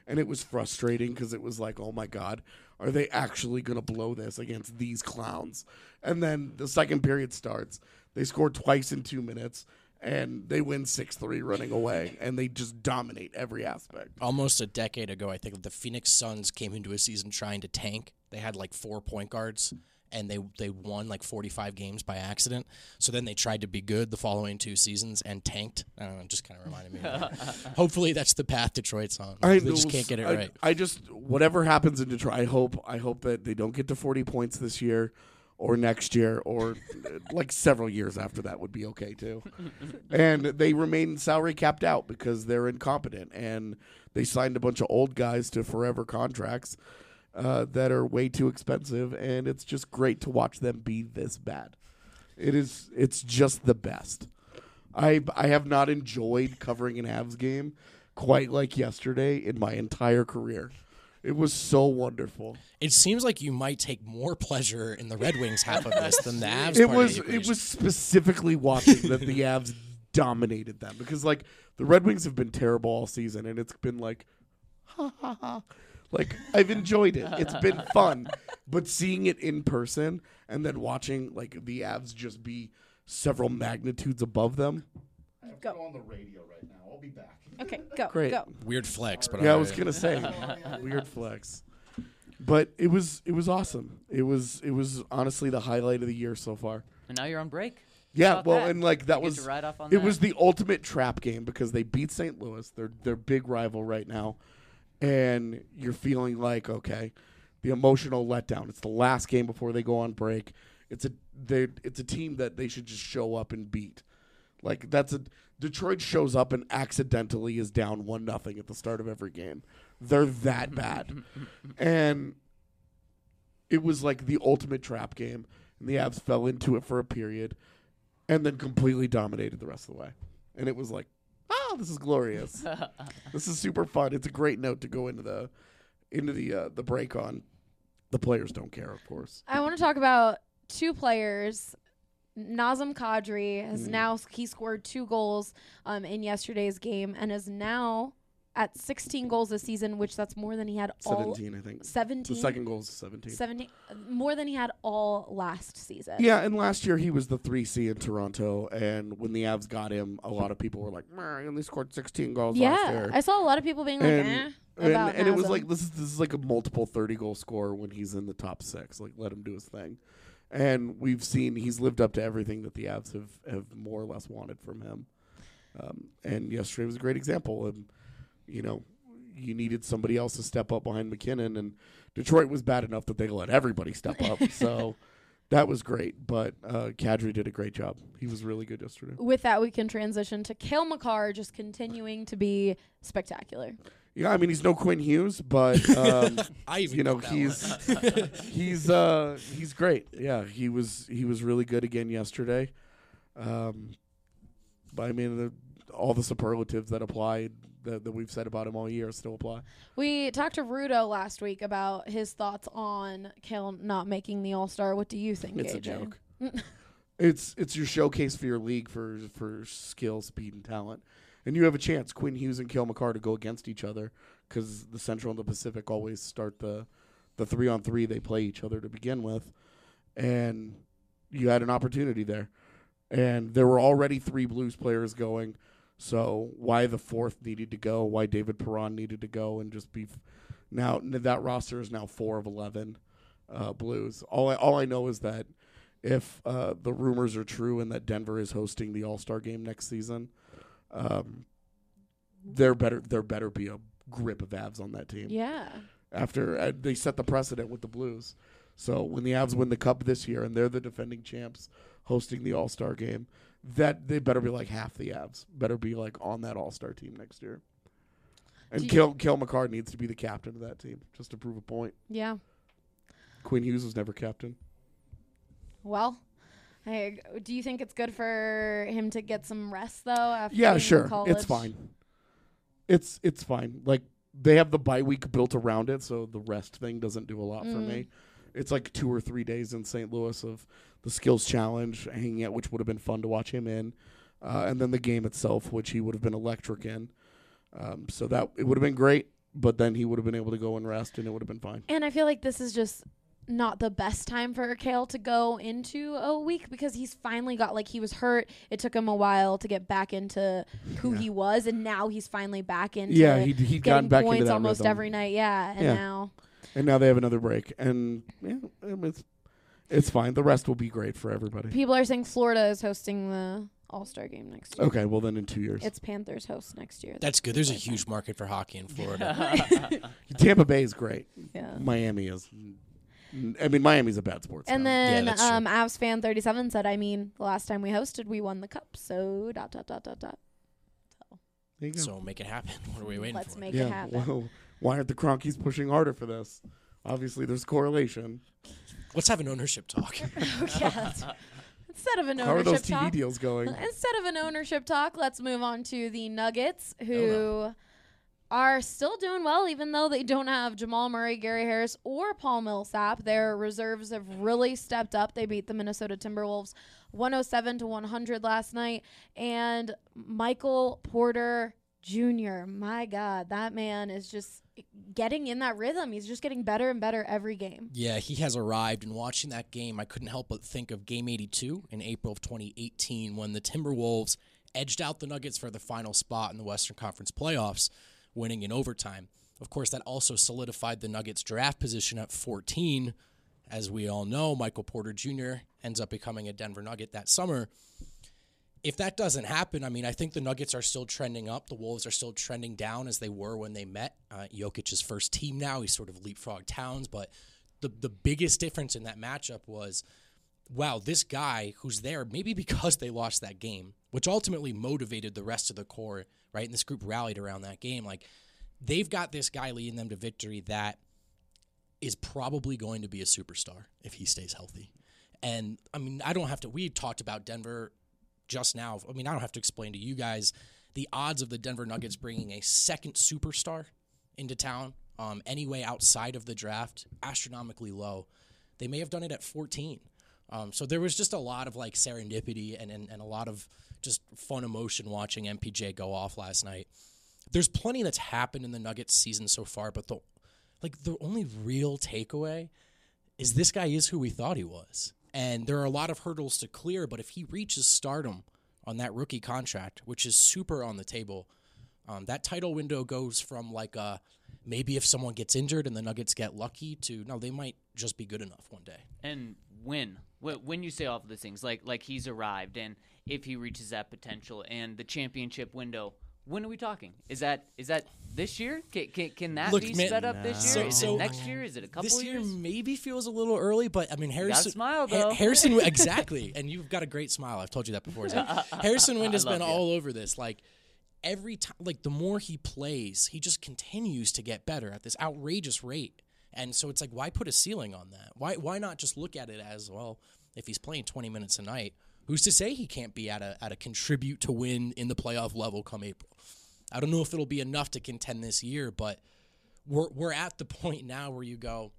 and it was frustrating because it was like, oh my God, are they actually going to blow this against these clowns? And then the second period starts. They score twice in two minutes, and they win six three running away, and they just dominate every aspect. Almost a decade ago, I think the Phoenix Suns came into a season trying to tank. They had like four point guards, and they they won like forty-five games by accident. So then they tried to be good the following two seasons and tanked. I don't know, it just kind of reminded me of that. Hopefully that's the path Detroit's on. I They just can't get it I, right. I just whatever happens in Detroit, I hope I hope that they don't get to forty points this year or next year or uh, like several years after that would be okay too. And they remain salary capped out because they're incompetent and they signed a bunch of old guys to forever contracts uh, that are way too expensive, and it's just great to watch them be this bad. It is it's just the best. I I have not enjoyed covering an Avs game quite like yesterday in my entire career. It was so wonderful. It seems like you might take more pleasure in the Red Wings half of this than the Avs It part was of the it equation. was specifically watching that the Avs dominated them because like the Red Wings have been terrible all season, and it's been like ha ha ha. Like I've enjoyed it. It's been fun. But seeing it in person and then watching like the Avs just be several magnitudes above them. I have Go. to go on the radio right now. I'll be back. Okay, go, Great. go. Weird flex, but Yeah, I all was right. gonna say weird flex, but it was it was awesome. It was it was honestly the highlight of the year so far. And now you're on break. Yeah, About well, that. and like that You get was to ride off on it that. was the ultimate trap game because they beat Saint Louis. They're their big rival right now, and you're feeling like okay, the emotional letdown. It's the last game before they go on break. It's a they it's a team that they should just show up and beat. Like that's a Detroit shows up and accidentally is down one nothing at the start of every game. They're that bad, and it was like the ultimate trap game. And the Avs fell into it for a period, and then completely dominated the rest of the way. And it was like, oh, this is glorious. This is super fun. It's a great note to go into the into the uh, the break on. The players don't care, of course. I want to talk about two players. Nazem Kadri has Mm. now he scored two goals um, in yesterday's game and is now at sixteen goals this season, which that's more than he had all Seventeen, I think. seventeen. The second goal is seventeen. seventeen more than he had all last season. Yeah, and last year he was the three C in Toronto, and when the Avs got him, a lot of people were like, "Meh, he only scored sixteen goals last Yeah, year." I saw a lot of people being like, And- eh, And, about and it was Nazem. like this is this is like a multiple thirty goal scorer when he's in the top six. Like let him do his thing. And we've seen he's lived up to everything that the Avs have, have more or less wanted from him. Um, and yesterday was a great example. And you know, you needed somebody else to step up behind McKinnon, and Detroit was bad enough that they let everybody step up. So that was great. But uh, Kadri did a great job. He was really good yesterday. With that, we can transition to Cale Makar just continuing to be spectacular. Yeah, I mean he's no Quinn Hughes, but um, I even you know got that he's he's uh, he's great. Yeah, he was he was really good again yesterday. Um, but I mean the, all the superlatives that applied that, that we've said about him all year still apply. We talked to Rudo last week about his thoughts on Cale not making the All-Star. What do you think, It's A a J? joke. It's it's your showcase for your league for for skill, speed, and talent. And you have a chance, Quinn Hughes and Cale Makar, to go against each other because the Central and the Pacific always start the the three on three. They play each other to begin with, and you had an opportunity there. And there were already three Blues players going, so why the fourth needed to go? Why David Perron needed to go and just be f- now that roster is now four of eleven uh, Blues. All I, all I know is that if uh, the rumors are true and that Denver is hosting the All Star game next season. Um, there better there better be a grip of Avs on that team. Yeah. After uh, they set the precedent with the Blues, so when the Avs win the Cup this year and they're the defending champs hosting the All Star game, that they better be like half the Avs. Better be like on that All Star team next year. And Do Cale Cale Makar needs to be the captain of that team just to prove a point. Yeah. Quinn Hughes was never captain. Well, I, do you think it's good for him to get some rest though? After Yeah, being in sure. college? It's fine. It's it's fine. Like they have the bye week built around it, so the rest thing doesn't do a lot for Mm. me. It's like two or three days in Saint Louis of the skills challenge, hanging out, which would have been fun to watch him in, uh, and then the game itself, which he would have been electric in. Um, so that it would have been great. but then he would have been able to go and rest, and it would have been fine. And I feel like this is just not the best time for Kale to go into a week because he's finally got, like, he was hurt. It took him a while to get back into who Yeah. he was, and now he's finally back into Yeah, he'd, he'd getting gotten back points into that almost rhythm. every night. Yeah, and Yeah. now And now they have another break, and yeah, it's it's fine. The rest will be great for everybody. people are saying Florida is hosting the All-Star game next year. Okay, well then in two years, It's Panthers host next year. That's good. There's a what I huge think. market for hockey in Florida. Tampa Bay is great. Yeah. Miami is. I mean, Miami's a bad sports. And town. then that's true. um, Avs fan thirty-seven said, I mean, the last time we hosted, we won the cup. So dot, dot, dot, dot, dot. There you go. So make it happen. What are we waiting Let's for? make yeah. it happen. Well, why aren't the Cronkies pushing harder for this? Obviously, there's correlation. Let's have an ownership talk. Yeah. Instead of an How are those ownership T V talk, deals going? instead of an ownership talk, let's move on to the Nuggets, who Oh, no. are still doing well, even though they don't have Jamal Murray, Gary Harris, or Paul Millsap. Their reserves have really stepped up. They beat the Minnesota Timberwolves one oh seven to one hundred last night, and Michael Porter Junior My God, that man is just getting in that rhythm. He's just getting better and better every game. Yeah, he has arrived. And watching that game, I couldn't help but think of Game eighty-two in April of twenty eighteen when the Timberwolves edged out the Nuggets for the final spot in the Western Conference playoffs, winning in overtime. Of course, that also solidified the Nuggets' draft position at fourteen. As we all know, Michael Porter Junior ends up becoming a Denver Nugget that summer. If that doesn't happen, I mean, I think the Nuggets are still trending up. The Wolves are still trending down as they were when they met. Uh, Jokic's first team now. He's sort of leapfrogged Towns. But the, the biggest difference in that matchup was, wow, this guy who's there, maybe because they lost that game, which ultimately motivated the rest of the core, right? And this group rallied around that game. Like, they've got this guy leading them to victory that is probably going to be a superstar if he stays healthy. And, I mean, I don't have to – we talked about Denver – just now. I mean, I don't have to explain to you guys the odds of the Denver Nuggets bringing a second superstar into town um, anyway outside of the draft, astronomically low. They may have done it at fourteen. Um, so there was just a lot of like serendipity and, and, and a lot of just fun emotion watching M P J go off last night. There's plenty that's happened in the Nuggets season so far, but the like the only real takeaway is this guy is who we thought he was. And there are a lot of hurdles to clear, but if he reaches stardom on that rookie contract, which is super on the table, um, that title window goes from like a, maybe if someone gets injured and the Nuggets get lucky to, no, they might just be good enough one day. And when? Wh- When you say all of those things, like like he's arrived, and if he reaches that potential and the championship window, when are we talking? Is that is that this year? Can, can, can that Look, be man, sped up this so- year? Is so it next year? Is it a couple This year years? maybe feels a little early, but I mean Harrison. smile, Ha- though. Harrison, exactly, and you've got a great smile. I've told you that before. So Harrison Wind has I love been you. all over this. Like every time, like the more he plays, he just continues to get better at this outrageous rate. And so it's like, why put a ceiling on that? Why why not just look at it as, well, if he's playing twenty minutes a night, who's to say he can't be at a at a contribute to win in the playoff level come April? I don't know if it'll be enough to contend this year, but we're we're at the point now where you go,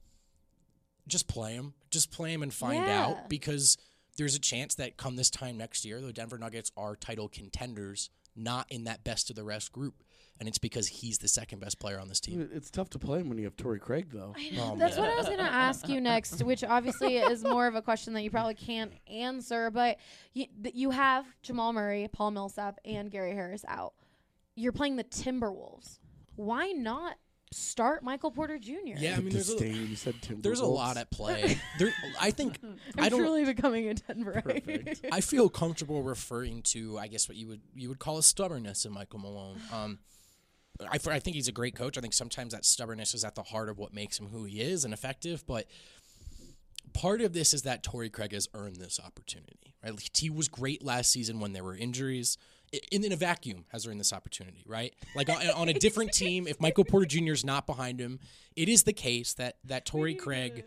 just play him, just play him and find Yeah. out, because there's a chance that come this time next year, the Denver Nuggets are title contenders, not in that best of the rest group, and it's because he's the second best player on this team. It's tough to play him when you have Torrey Craig, though. I know. Oh, That's man. what I was going to ask you next, which obviously is more of a question that you probably can't answer. But you, th- you have Jamal Murray, Paul Millsap, and Gary Harris out. You're playing the Timberwolves. Why not start Michael Porter Junior? Yeah, I mean, there's a, Disdain, you said Timberwolves. there's a lot at play. There, I think I'm I don't. truly becoming a Denver. Perfect. I feel comfortable referring to, I guess, what you would you would call a stubbornness in Michael Malone. Um, I, I think he's a great coach. I think sometimes that stubbornness is at the heart of what makes him who he is and effective. But part of this is that Torrey Craig has earned this opportunity. Right? He was great last season when there were injuries. In, in a vacuum, has earned this opportunity, right? Like on, on a different team, if Michael Porter Junior is not behind him, it is the case that that Torrey Craig,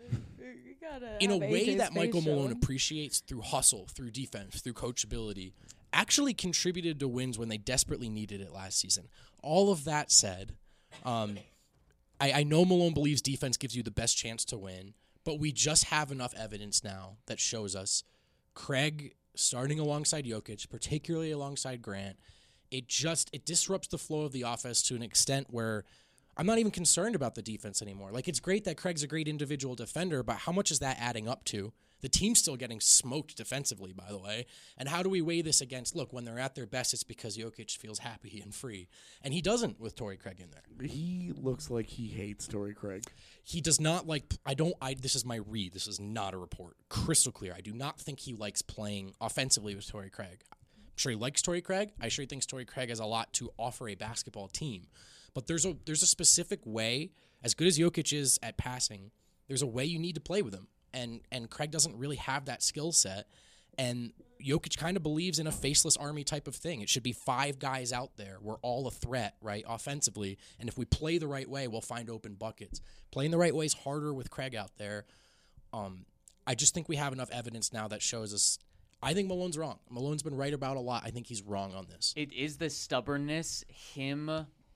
in a way that Michael Malone appreciates through hustle, through defense, through coachability, actually contributed to wins when they desperately needed it last season. All of that said, um, I, I know Malone believes defense gives you the best chance to win, but we just have enough evidence now that shows us Craig starting alongside Jokic, particularly alongside Grant, it just it disrupts the flow of the offense to an extent where I'm not even concerned about the defense anymore. Like, it's great that Craig's a great individual defender, but how much is that adding up to? The team's still getting smoked defensively, by the way. And how do we weigh this against, look, when they're at their best, it's because Jokic feels happy and free. And he doesn't with Torrey Craig in there. He looks like he hates Torrey Craig. He does not like, I don't, I. this is my read. This is not a report. Crystal clear. I do not think he likes playing offensively with Torrey Craig. I'm sure he likes Torrey Craig. I sure he thinks Torrey Craig has a lot to offer a basketball team. But there's a there's a specific way, as good as Jokic is at passing, there's a way you need to play with him. And and Craig doesn't really have that skill set. And Jokic kind of believes in a faceless army type of thing. It should be five guys out there. We're all a threat, right, offensively. And if we play the right way, we'll find open buckets. Playing the right way is harder with Craig out there. Um, I just think we have enough evidence now that shows us. I think Malone's wrong. Malone's been right about a lot. I think he's wrong on this. It is the stubbornness him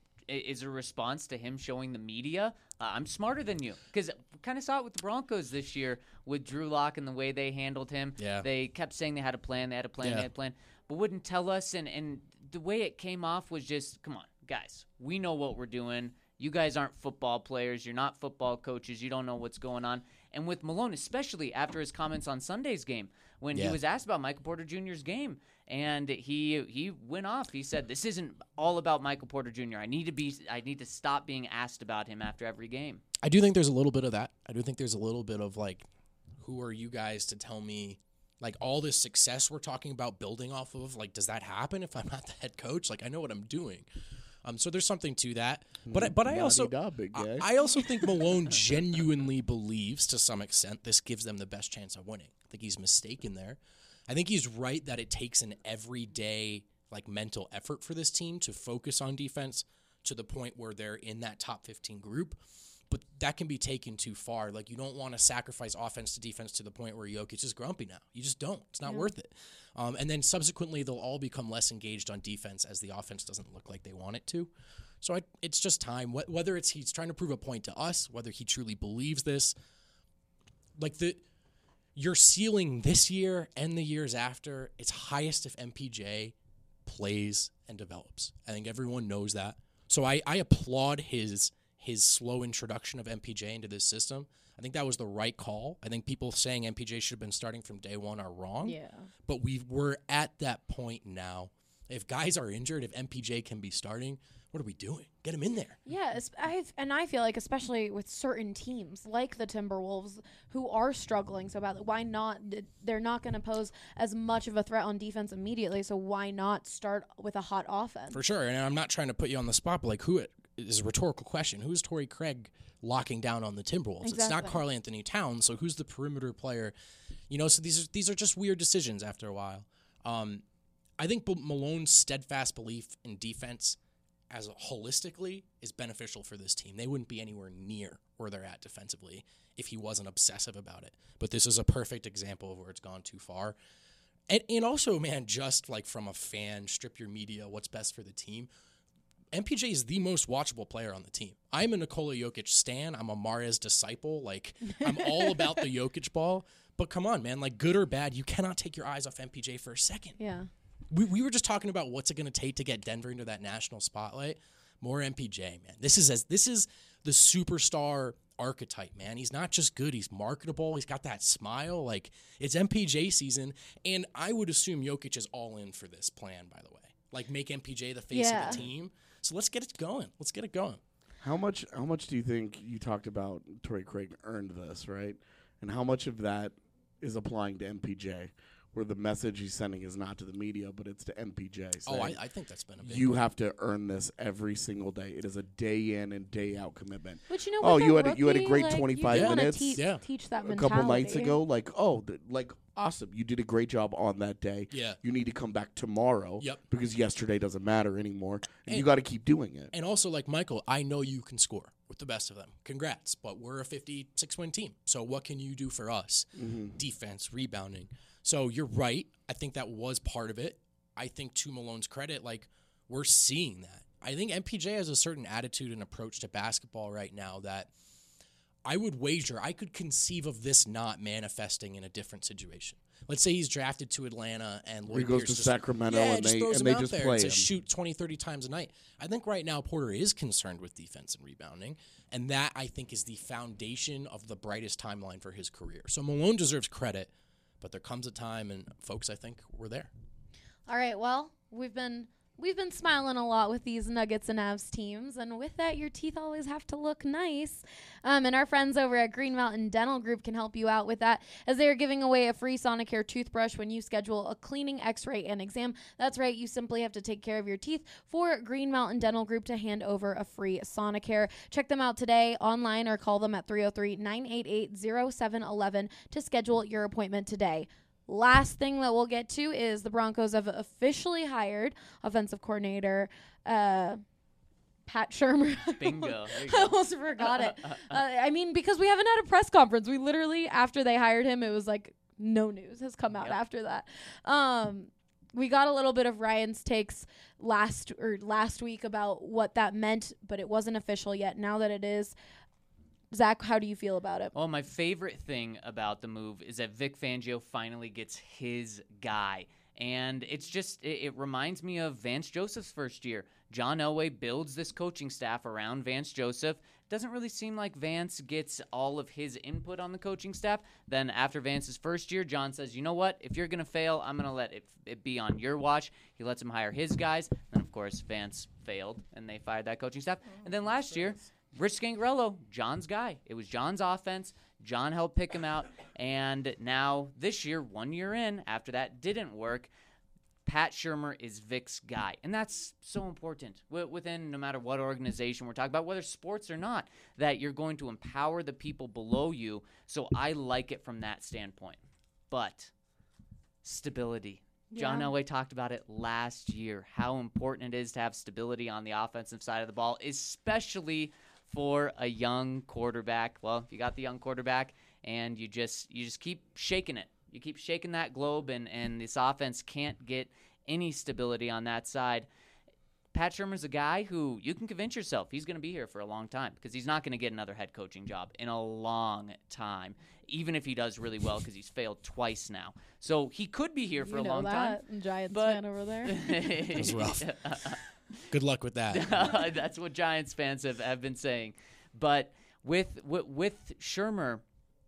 is a response to him showing the media, uh, I'm smarter than you. Because we kind of saw it with the Broncos this year with Drew Lock and the way they handled him. Yeah. They kept saying they had a plan, they had a plan, Yeah. they had a plan, but wouldn't tell us. And, and the way it came off was just, come on, guys, we know what we're doing. You guys aren't football players. You're not football coaches. You don't know what's going on. And with Malone, especially after his comments on Sunday's game, when Yeah. he was asked about Michael Porter Junior's game, and he he went off. He said, "This isn't all about Michael Porter Junior I need to be. I need to stop being asked about him after every game." I do think there's a little bit of that. I do think there's a little bit of, like, who are you guys to tell me, like, all this success we're talking about building off of, like, does that happen if I'm not the head coach? Like, I know what I'm doing. Um, so there's something to that. But I, but I also La-di-da, big guy. I, I also think Malone genuinely believes, to some extent, this gives them the best chance of winning. I think he's mistaken there. I think he's right that it takes an everyday, like, mental effort for this team to focus on defense to the point where they're in that top fifteen group. But that can be taken too far. Like, you don't want to sacrifice offense to defense to the point where Jokic is grumpy now. You just don't. It's not Yeah. worth it. Um, and then subsequently, they'll all become less engaged on defense as the offense doesn't look like they want it to. So I, it's just time. Wh- Whether it's he's trying to prove a point to us, whether he truly believes this, like the your ceiling this year and the years after, it's highest if M P J plays and develops. I think everyone knows that. So I, I applaud his his slow introduction of M P J into this system. I think that was the right call. I think people saying M P J should have been starting from day one are wrong. Yeah. But we we're at that point now. If guys are injured, if M P J can be starting, what are we doing? Get him in there. Yeah, es- I've, and I feel like especially with certain teams like the Timberwolves who are struggling so badly, why not? d- They're not going to pose as much of a threat on defense immediately, so why not start with a hot offense? For sure. And I'm not trying to put you on the spot, but like who it is a rhetorical question. Who's Torrey Craig locking down on the Timberwolves? It's not Exactly. Karl Anthony Towns, so who's the perimeter player? You know, so these are these are just weird decisions after a while. Um, I think B- Malone's steadfast belief in defense as a, holistically is beneficial for this team. They wouldn't be anywhere near where they're at defensively if he wasn't obsessive about it. But this is a perfect example of where it's gone too far. And, and also, man, just like from a fan, strip your media, what's best for the team. M P J is the most watchable player on the team. I'm a Nikola Jokic stan. I'm a Mahrez disciple. Like, I'm all about the Jokic ball. But come on, man. Like, good or bad, you cannot take your eyes off M P J for a second. Yeah. We we were just talking about what's it going to take to get Denver into that national spotlight. More M P J, man. This is as this is the superstar archetype, man. He's not just good. He's marketable. He's got that smile. Like, it's M P J season. And I would assume Jokic is all in for this plan, by the way. Like, make M P J the face Yeah. of the team. So let's get it going. Let's get it going. How much? How much do you think you talked about Torrey Craig earned this, right? And how much of that is applying to M P J, where the message he's sending is not to the media, but it's to M P J? Oh, I, saying, I think that's been a big you one. have to earn this every single day. It is a day in and day out commitment. But you know, Oh, with you a had a- you had a rookie, great like, you twenty-five wanna minutes. Teach, Yeah. teach that A mentality. couple nights ago, like, oh, th- like, awesome. You did a great job on that day. Yeah. You need to come back tomorrow. Yep. Because yesterday doesn't matter anymore. And, And- you got to keep doing it. And also, like, Michael, I know you can score with the best of them. Congrats. But we're a fifty-six win team. So what can you do for us? Defense, rebounding. So you're right. I think that was part of it. I think, to Malone's credit, like, we're seeing that. I think M P J has a certain attitude and approach to basketball right now that I would wager I could conceive of this not manifesting in a different situation. Let's say he's drafted to Atlanta and Lloyd he goes Pierce to just, Sacramento yeah, and just they throws and him they out just there play to him. shoot twenty, thirty times a night. I think right now Porter is concerned with defense and rebounding, and that I think is the foundation of the brightest timeline for his career. So Malone deserves credit, but there comes a time, and folks, I think we're there. All right, well, we've been we've been smiling a lot with these Nuggets and Avs teams, and with that, your teeth always have to look nice. Um, and our friends over at Green Mountain Dental Group can help you out with that, as they are giving away a free Sonicare toothbrush when you schedule a cleaning, x-ray, and exam. That's right, you simply have to take care of your teeth for Green Mountain Dental Group to hand over a free Sonicare. Check them out today online or call them at three oh three, nine eight eight, oh seven one one to schedule your appointment today. Last thing that we'll get to is the Broncos have officially hired offensive coordinator uh, Pat Shurmur. Bingo. I almost forgot it. Uh, I mean, because we haven't had a press conference. We literally, after they hired him, it was like no news has come out Yep. after that. Um, we got a little bit of Ryan's takes last or last week about what that meant, but it wasn't official yet. Now that it is, Zach, how do you feel about it? Well, my favorite thing about the move is that Vic Fangio finally gets his guy. And it's just, it, it reminds me of Vance Joseph's first year. John Elway builds this coaching staff around Vance Joseph. Doesn't really seem like Vance gets all of his input on the coaching staff. Then after Vance's first year, John says, you know what? If you're going to fail, I'm going to let it, it be on your watch. He lets him hire his guys. Then, of course, Vance failed, and they fired that coaching staff. And then last year, Rich Scangarello, John's guy. It was John's offense. John helped pick him out. And now this year, one year in, after that didn't work, Pat Shurmur is Vic's guy. And that's so important w- within no matter what organization we're talking about, whether sports or not, that you're going to empower the people below you. So I like it from that standpoint. But stability. John Yeah. Elway talked about it last year, how important it is to have stability on the offensive side of the ball, especially for a young quarterback. Well, if you got the young quarterback and you just you just keep shaking it. You keep shaking that globe, and, and this offense can't get any stability on that side. Pat Shurmur's a guy who you can convince yourself he's going to be here for a long time because he's not going to get another head coaching job in a long time, even if he does really well because he's failed twice now. So he could be here for you a know long that, time. Giants but- fan over there. It was rough. Good luck with that. That's what Giants fans have, have been saying. But with, with with Shurmur,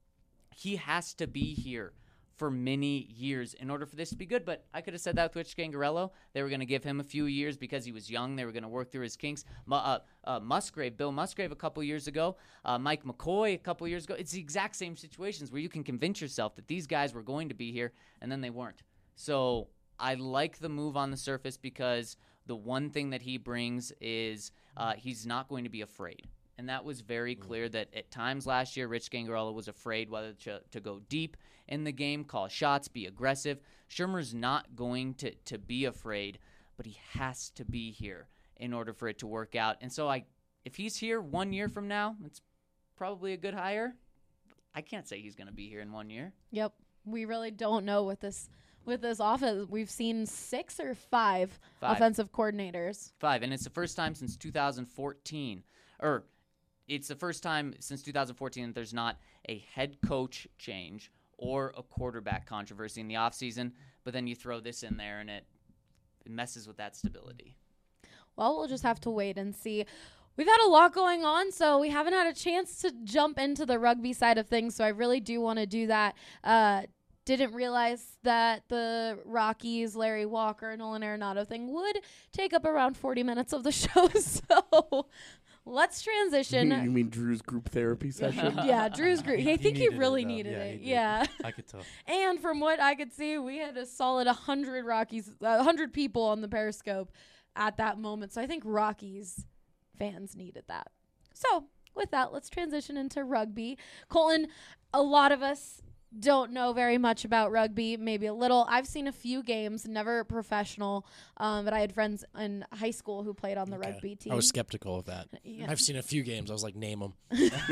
he has to be here for many years in order for this to be good. But I could have said that with Rich Scangarello. They were going to give him a few years because he was young. They were going to work through his kinks. Mu- uh, uh, Musgrave, Bill Musgrave a couple years ago, uh, Mike McCoy a couple years ago. It's the exact same situations where you can convince yourself that these guys were going to be here, and then they weren't. So I like the move on the surface because the one thing that he brings is uh, he's not going to be afraid. And that was very clear that at times last year, Rich Scangarello was afraid whether to, to go deep in the game, call shots, be aggressive. Shurmur's not going to, to be afraid, but he has to be here in order for it to work out. And so I, if he's here one year from now, it's probably a good hire. I can't say he's going to be here in one year. Yep. We really don't know with this with this offense. We've seen six or five, Five. offensive coordinators. Five, and it's the first time since two thousand fourteen, or it's the first time since two thousand fourteen that there's not a head coach change or a quarterback controversy in the offseason, but then you throw this in there and it, it messes with that stability. Well, we'll just have to wait and see. We've had a lot going on, so we haven't had a chance to jump into the rugby side of things, so I really do want to do that. Uh, didn't realize that the Rockies, Larry Walker, Nolan Arenado thing would take up around forty minutes of the show, so let's transition. You mean Drew's group therapy session? Yeah, Drew's group. I think he, needed it, really though. needed Yeah, it. he did. Yeah. I could tell. And from what I could see, we had a solid one hundred Rockies, uh, one hundred people on the Periscope at that moment. So I think Rockies fans needed that. So with that, let's transition into rugby. Colton, a lot of us don't know very much about rugby, maybe a little. I've seen a few games, never professional, um, but I had friends in high school who played on the Okay. rugby team. I was skeptical of that. Yeah. I've seen a few games. I was like, name them.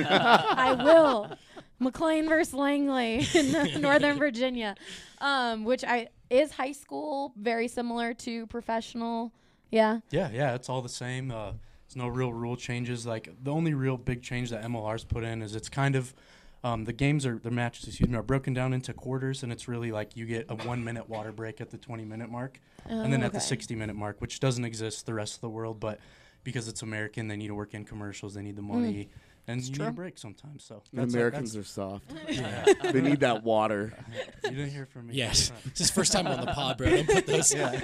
I will. McLean versus Langley in Northern Virginia, um, which I is high school very similar to professional. Yeah. Yeah, yeah, it's all the same. Uh, There's no real rule changes. Like the only real big change that M L R's put in is it's kind of um, the games are the matches excuse me are broken down into quarters, and it's really like you get a one minute water break at the twenty minute mark, Oh, and then at the okay. sixty minute mark, which doesn't exist the rest of the world, but because it's American, they need to work in commercials, they need the money, and you need a break sometimes. So And that's a- Americans that's- are soft. Yeah. They need that water. You didn't hear from me. Yes, this is first time on the pod, bro. Don't put those. Um,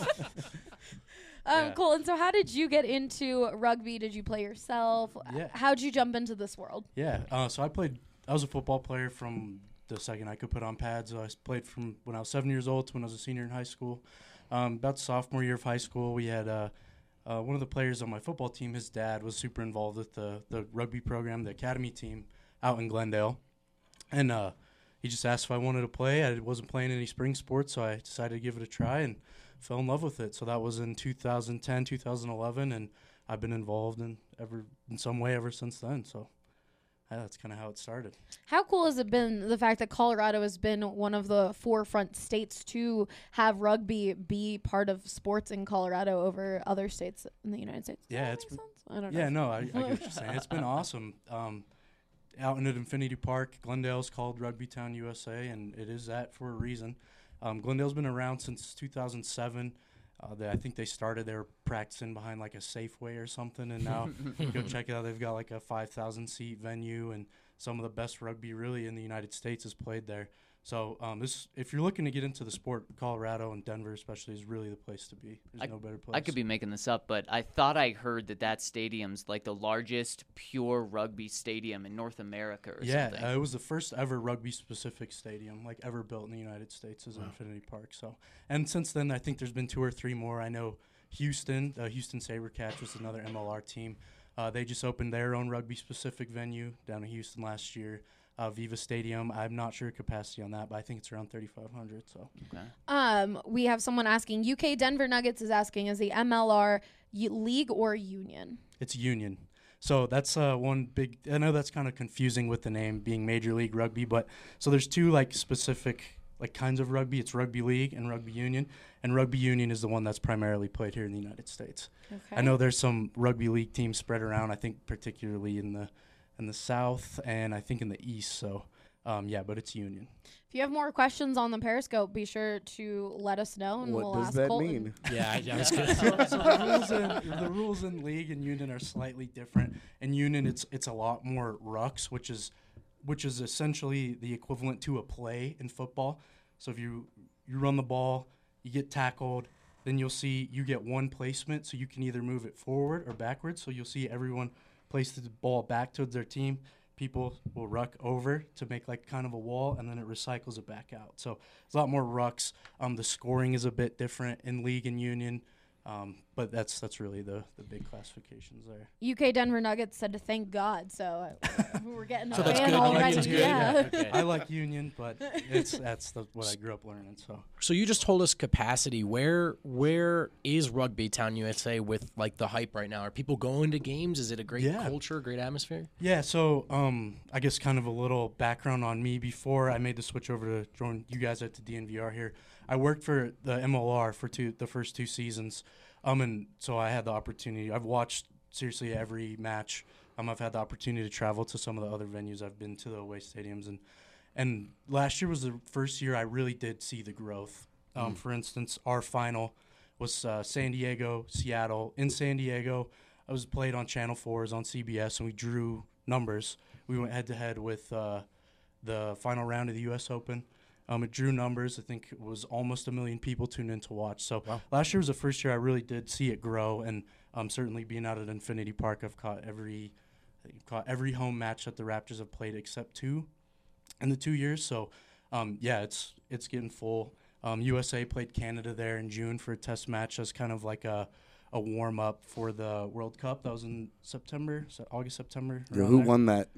Yeah. Colton, so how did you get into rugby? Did you play yourself? Yeah. How'd you jump into this world? Yeah, uh, so I played. I was a football player from the second I could put on pads. So I s- played from when I was seven years old to when I was a senior in high school. Um, about sophomore year of high school, we had uh, uh, one of the players on my football team. His dad was super involved with the the rugby program, the academy team out in Glendale, and uh, he just asked if I wanted to play. I wasn't playing any spring sports, so I decided to give it a try and fell in love with it. So that was in two thousand ten, two thousand eleven, and I've been involved in ever in some way ever since then. So. Yeah, that's kind of how it started. How cool has it been the fact that Colorado has been one of the forefront states to have rugby be part of sports in Colorado over other states in the United States? Does Yeah, that it's make been- sense? I don't know. Yeah, no, I, I get what you're saying. It's been awesome. Um, out in at Infinity Park, Glendale's called Rugby Town U S A, and it is that for a reason. Um, Glendale's been around since two thousand seven. Uh, they, I think they started, they were practicing behind like a Safeway or something, and now go check it out. They've got like a five thousand seat venue, and some of the best rugby really in the United States is played there. So um, this, if you're looking to get into the sport, Colorado and Denver especially is really the place to be. There's I, no better place. I could be making this up, but I thought I heard that that stadium's like the largest pure rugby stadium in North America or Yeah, something. uh, it was the first ever rugby-specific stadium, like ever built in the United States, is Infinity Park. So, and since then, I think there's been two or three more. I know Houston, the Houston SaberCats was another M L R team. Uh, they just opened their own rugby-specific venue down in Houston last year, uh, Viva Stadium. I'm not sure capacity on that, but I think it's around thirty-five hundred. So, okay. Um, we have someone asking. U K Denver Nuggets is asking: is the M L R y- league or union? it's Union. So that's uh, one big. I know that's kind of confusing with the name being Major League Rugby, but so there's two like specific like kinds of rugby. It's rugby league and rugby union, and rugby union is the one that's primarily played here in the United States. Okay. I know there's some rugby league teams spread around. I think particularly in the in the South and I think in the East. So um, yeah, but it's union. If you have more questions on the Periscope, be sure to let us know, and What we'll does ask that Colton. mean? Yeah, I, I was gonna. so, so the rules in the rules in league and union are slightly different. In union, it's it's a lot more rucks, which is which is essentially the equivalent to a play in football. So if you you run the ball, you get tackled, then you'll see you get one placement, so you can either move it forward or backwards. So you'll see everyone place the ball back towards their team. People will ruck over to make like kind of a wall, and then it recycles it back out. So there's a lot more rucks. Um, the scoring is a bit different in league and union, um, but that's that's really the, the big classifications there. U K Denver Nuggets said to thank God, so uh, we're getting a So that's fan good. already. Union's good. Yeah. Okay. I like union, but it's that's the, what I grew up learning. So So you just told us capacity. Where where is Rugby Town U S A with like the hype right now? Are people going to games? Is it a great Yeah. culture, great atmosphere? yeah, so um, I guess kind of a little background on me before I made the switch over to join you guys at the D N V R here. I worked for the M L R for two the first two seasons, um, and so I had the opportunity. I've watched seriously every match. Um, I've had the opportunity to travel to some of the other venues. I've been to the away stadiums, and and last year was the first year I really did see the growth. Um, For instance, our final was uh, San Diego, Seattle. In San Diego, I was played on Channel four, on C B S, and we drew numbers. We went head-to-head with uh, the final round of the U S Open. Um, it drew numbers. I think it was almost a million people tuned in to watch. So last year was the first year I really did see it grow, and um, certainly being out at Infinity Park, I've caught every I think I've caught every home match that the Raptors have played except two in the two years. So um, yeah, it's it's getting full. Um, U S A played Canada there in June for a test match as kind of like a a warm up for the World Cup. That was in September, so August, September. Yeah, around who there. won that?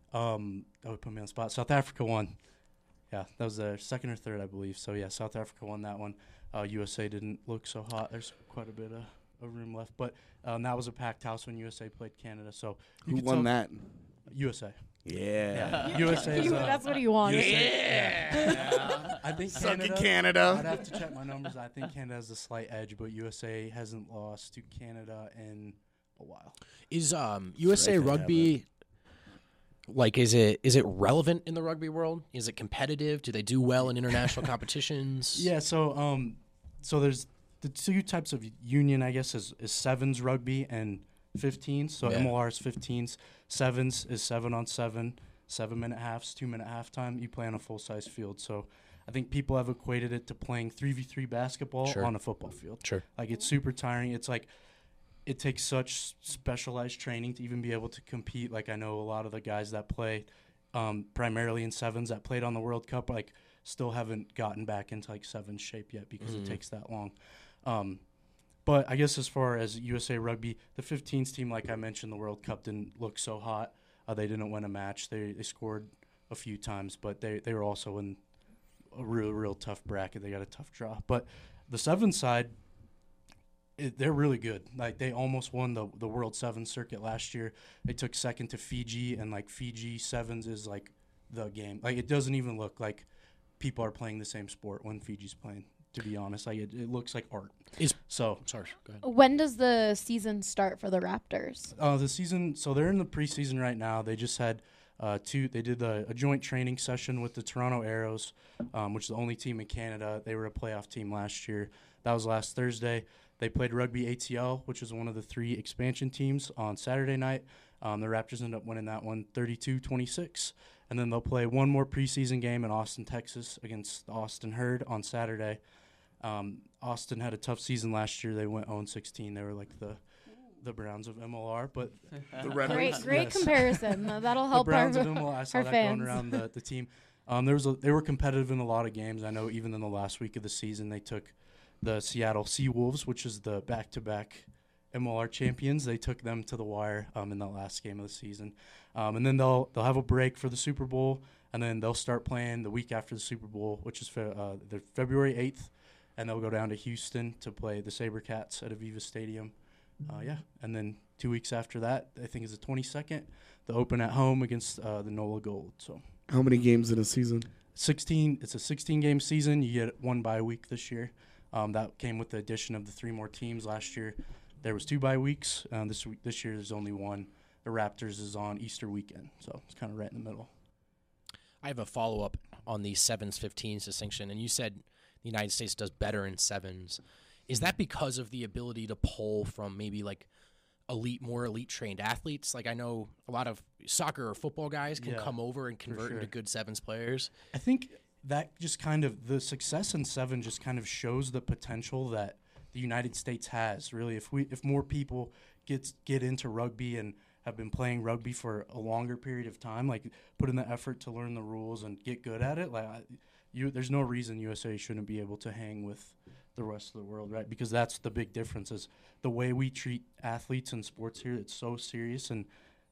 Um, that would put me on the spot. South Africa won. Yeah, that was their second or third, I believe. So yeah, South Africa won that one. Uh, U S A didn't look so hot. There's quite a bit of, of room left, but um, that was a packed house when U S A played Canada. So you Who could won tell- that? U S A. Yeah. Yeah, U S A. is, You- uh, that's what he wanted. U S A yeah. I think Suck it, Canada. Canada. I'd have to check my numbers. I think Canada has a slight edge, but U S A hasn't lost to Canada in a while. Is um, U S A Right, they have Rugby like is it is it relevant in the rugby world? Is it competitive? Do they do well in international competitions? Yeah, so um, so there's the two types of union, I guess, is, is sevens rugby and fifteens. So Yeah. M L R is fifteens. Sevens is seven on seven, seven minute halves, two minute halftime. You play on a full size field. So I think people have equated it to playing three v three basketball Sure. on a football field. Sure. Like it's super tiring. It's like it takes such specialized training to even be able to compete. Like I know a lot of the guys that play um, primarily in sevens that played on the World Cup, like still haven't gotten back into like sevens shape yet because Mhm. it takes that long. Um, but I guess as far as U S A Rugby, the fifteens team, like I mentioned, the World Cup didn't look so hot. Uh, they didn't win a match. They they scored a few times, but they, they were also in a real, real tough bracket. They got a tough draw. But the seven side, it, they're really good. Like they almost won the the World Sevens circuit last year. They took second to Fiji, and like Fiji sevens is like the game. Like it doesn't even look like people are playing the same sport when Fiji's playing. To be honest, like it, it looks like art. Is So sorry, go ahead. When does the season start for the Raptors? uh, the season, so they're in the preseason right now. They just had uh, two. They did a, a joint training session with the Toronto Arrows, um, which is the only team in Canada. They were a playoff team last year. That was last Thursday. They played Rugby A T L, which is one of the three expansion teams, on Saturday night. Um, the Raptors ended up winning that one thirty-two twenty-six. And then they'll play one more preseason game in Austin, Texas against the Austin Herd on Saturday. Um, Austin had a tough season last year. They went oh and sixteen. They were like the the Browns of M L R, but The Red Great, Wings. great Yes. comparison. Uh, That'll the help our, Browns of M L R. I saw our that fans. going around the, the team. Um, there was a, they were competitive in a lot of games. I know even in the last week of the season, they took the Seattle Seawolves, which is the back-to-back M L R champions. They took them to the wire um, in the last game of the season, um, and then they'll they'll have a break for the Super Bowl, and then they'll start playing the week after the Super Bowl, which is fe- uh, the February eighth, and they'll go down to Houston to play the SaberCats at Aviva Stadium. Uh, yeah, and then two weeks after that, I think is the twenty-second, the Open at home against uh, the NOLA Gold. So How many games in a season? sixteen. It's a sixteen-game season. You get one bye week this year. Um, that came with the addition of the three more teams last year. There was two bye weeks. Um, this week, this year, there's only one. The Raptors is on Easter weekend, so it's kind of right in the middle. I have a follow up on the sevens fifteens distinction, and you said the United States does better in sevens. Is that because of the ability to pull from maybe like elite, more elite trained athletes? Like I know a lot of soccer or football guys can Yeah, come over and convert sure. into good sevens players. I think that just kind of the success in seven just kind of shows the potential that the United States has. Really, if we if more people get get into rugby and have been playing rugby for a longer period of time, like put in the effort to learn the rules and get good at it, like I- you, there's no reason U S A shouldn't be able to hang with the rest of the world, right? Because that's the big difference is the way we treat athletes in sports here. It's so serious, and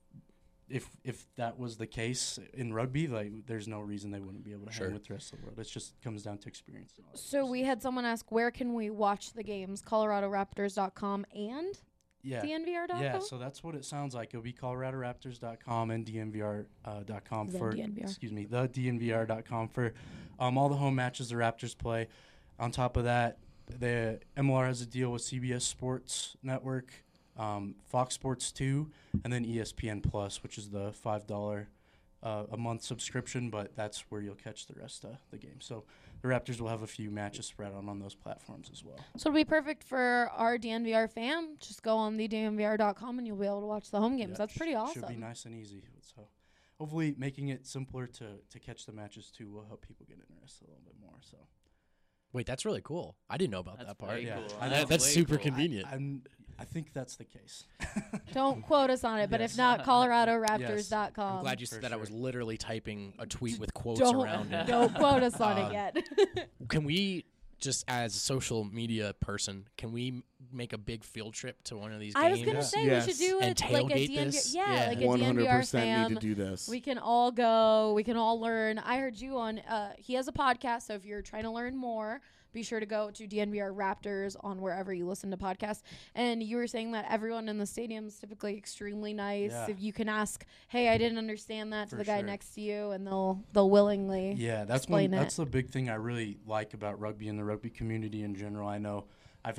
if if that was the case in rugby, like there's no reason they wouldn't be able to Sure. hang with the rest of the world. It just comes down to experience. and all that So stuff. we had someone ask, where can we watch the games? Colorado Raptors dot com and yeah. D N V R dot com? Yeah, so that's what it sounds like. It'll be Colorado Raptors dot com and D N V R dot com The for D N V R. excuse me, the D N V R dot com for um, all the home matches the Raptors play. On top of that, the M L R has a deal with C B S Sports Network, um, Fox Sports two, and then E S P N Plus, which is the five dollar uh, a month subscription. But that's where you'll catch the rest of the game. So the Raptors will have a few matches spread on on those platforms as well. So it'll be perfect for our D N V R fam. Just go on the D N V R dot com and you'll be able to watch the home games. Yeah, That's pretty sh- awesome. Should be nice and easy. So hopefully making it simpler to, to catch the matches too will help people get interested a little bit more. So Wait, that's really cool. I didn't know about That's that part. very Yeah. cool. I That- know. that's way super cool. convenient. I'm, I think that's the case. Don't quote us on it, but if Yes. not, Colorado Raptors dot com. I'm glad you said for that. I was sure. literally typing a tweet with quotes don't, around it. don't quote us on Um, it yet. Can we, just as a social media person, can we m- make a big field trip to one of these I was games? gonna Yeah. say Yes. we should do And it like a tailgate D N V R. this? Yeah, Yeah. like a one D N hundred V R percent fam. need to do this. We can all go. We can all learn. I heard you on. Uh, he has a podcast, so if you're trying to learn more, be sure to go to D N V R Raptors on wherever you listen to podcasts. And you were saying that everyone in the stadium is typically extremely nice. Yeah. If you can ask, "Hey, I didn't understand that," to For the guy sure. next to you, and they'll they'll willingly. Yeah, that's explain one. it. That's the big thing I really like about rugby and the rugby community in general. I know I've had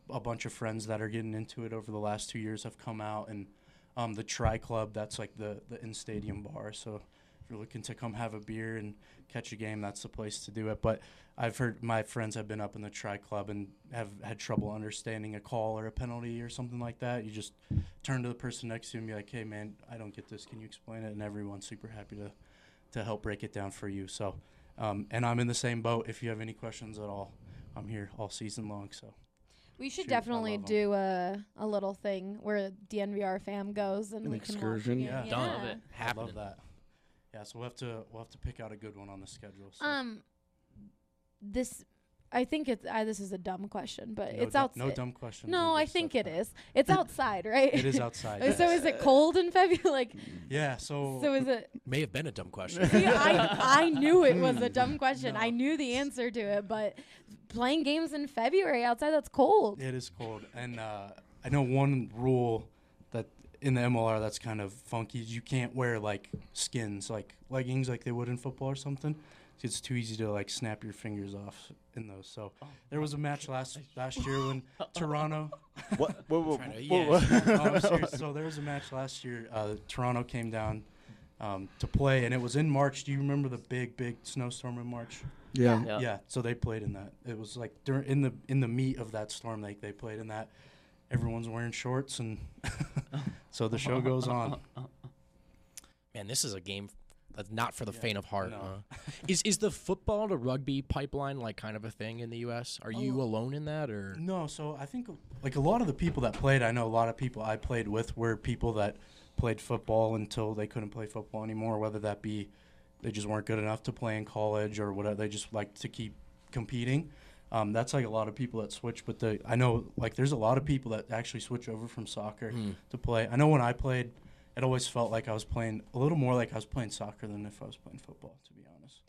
a bunch of friends that are getting into it over the last two years have come out, and um, the Tri Club, that's like the, the in-stadium bar. So if you're looking to come have a beer and catch a game, that's the place to do it. But I've heard my friends have been up in the Tri Club and have had trouble understanding a call or a penalty or something like that. You just turn to the person next to you and be like, hey, man, I don't get this. Can you explain it? And everyone's super happy to, to help break it down for you. So, um, and I'm in the same boat. If you have any questions at all, I'm here all season long. So We should Shoot, I definitely love 'em. do a, a little thing where D N V R fam goes and An we excursion? can watch the game. Yeah. Done. Love it. I Happening. love that. Yeah, so we'll have to we'll have to pick out a good one on the schedule. So. Um, this, I think it's uh, this is a dumb question, but no it's du- outside. No dumb questions. No, in I this think stuff. it is. It's outside, right? It is outside. Uh, so is it cold in February? Like, Yeah, so, so is it? May have been a dumb question. See, I I knew it was a dumb question. No. I knew the answer to it, but playing games in February outside, that's cold. it is cold. And uh, I know one rule that in the M L R that's kind of funky is you can't wear like skins, like leggings like they would in football or something. It's too easy to like snap your fingers off in those. So there was a match last last year when Toronto. What? Whoa, whoa, Trying to- whoa, yeah. whoa. No, I'm serious. So there was a match last year. Uh, Toronto came down um, to play, and it was in March. Do you remember the big, big snowstorm in March? Yeah. Yeah. Yeah. So they played in that. It was like during in the in the meat of that storm. They they played in that. Everyone's wearing shorts, and so the show goes on. Man, this is a game that's not for the Yeah, faint of heart. no. Huh? is is the football to rugby pipeline like kind of a thing in the U S? Are you Oh. alone in that, or No, so I think like a lot of the people that played, I know a lot of people I played with were people that played football until they couldn't play football anymore, whether that be they just weren't good enough to play in college or whatever. They just like to keep competing. Um, that's like a lot of people that switch, but the I know like there's a lot of people that actually switch over from soccer Hmm. to play. I know when I played, it always felt like I was playing a little more like I was playing soccer than if I was playing football, to be honest.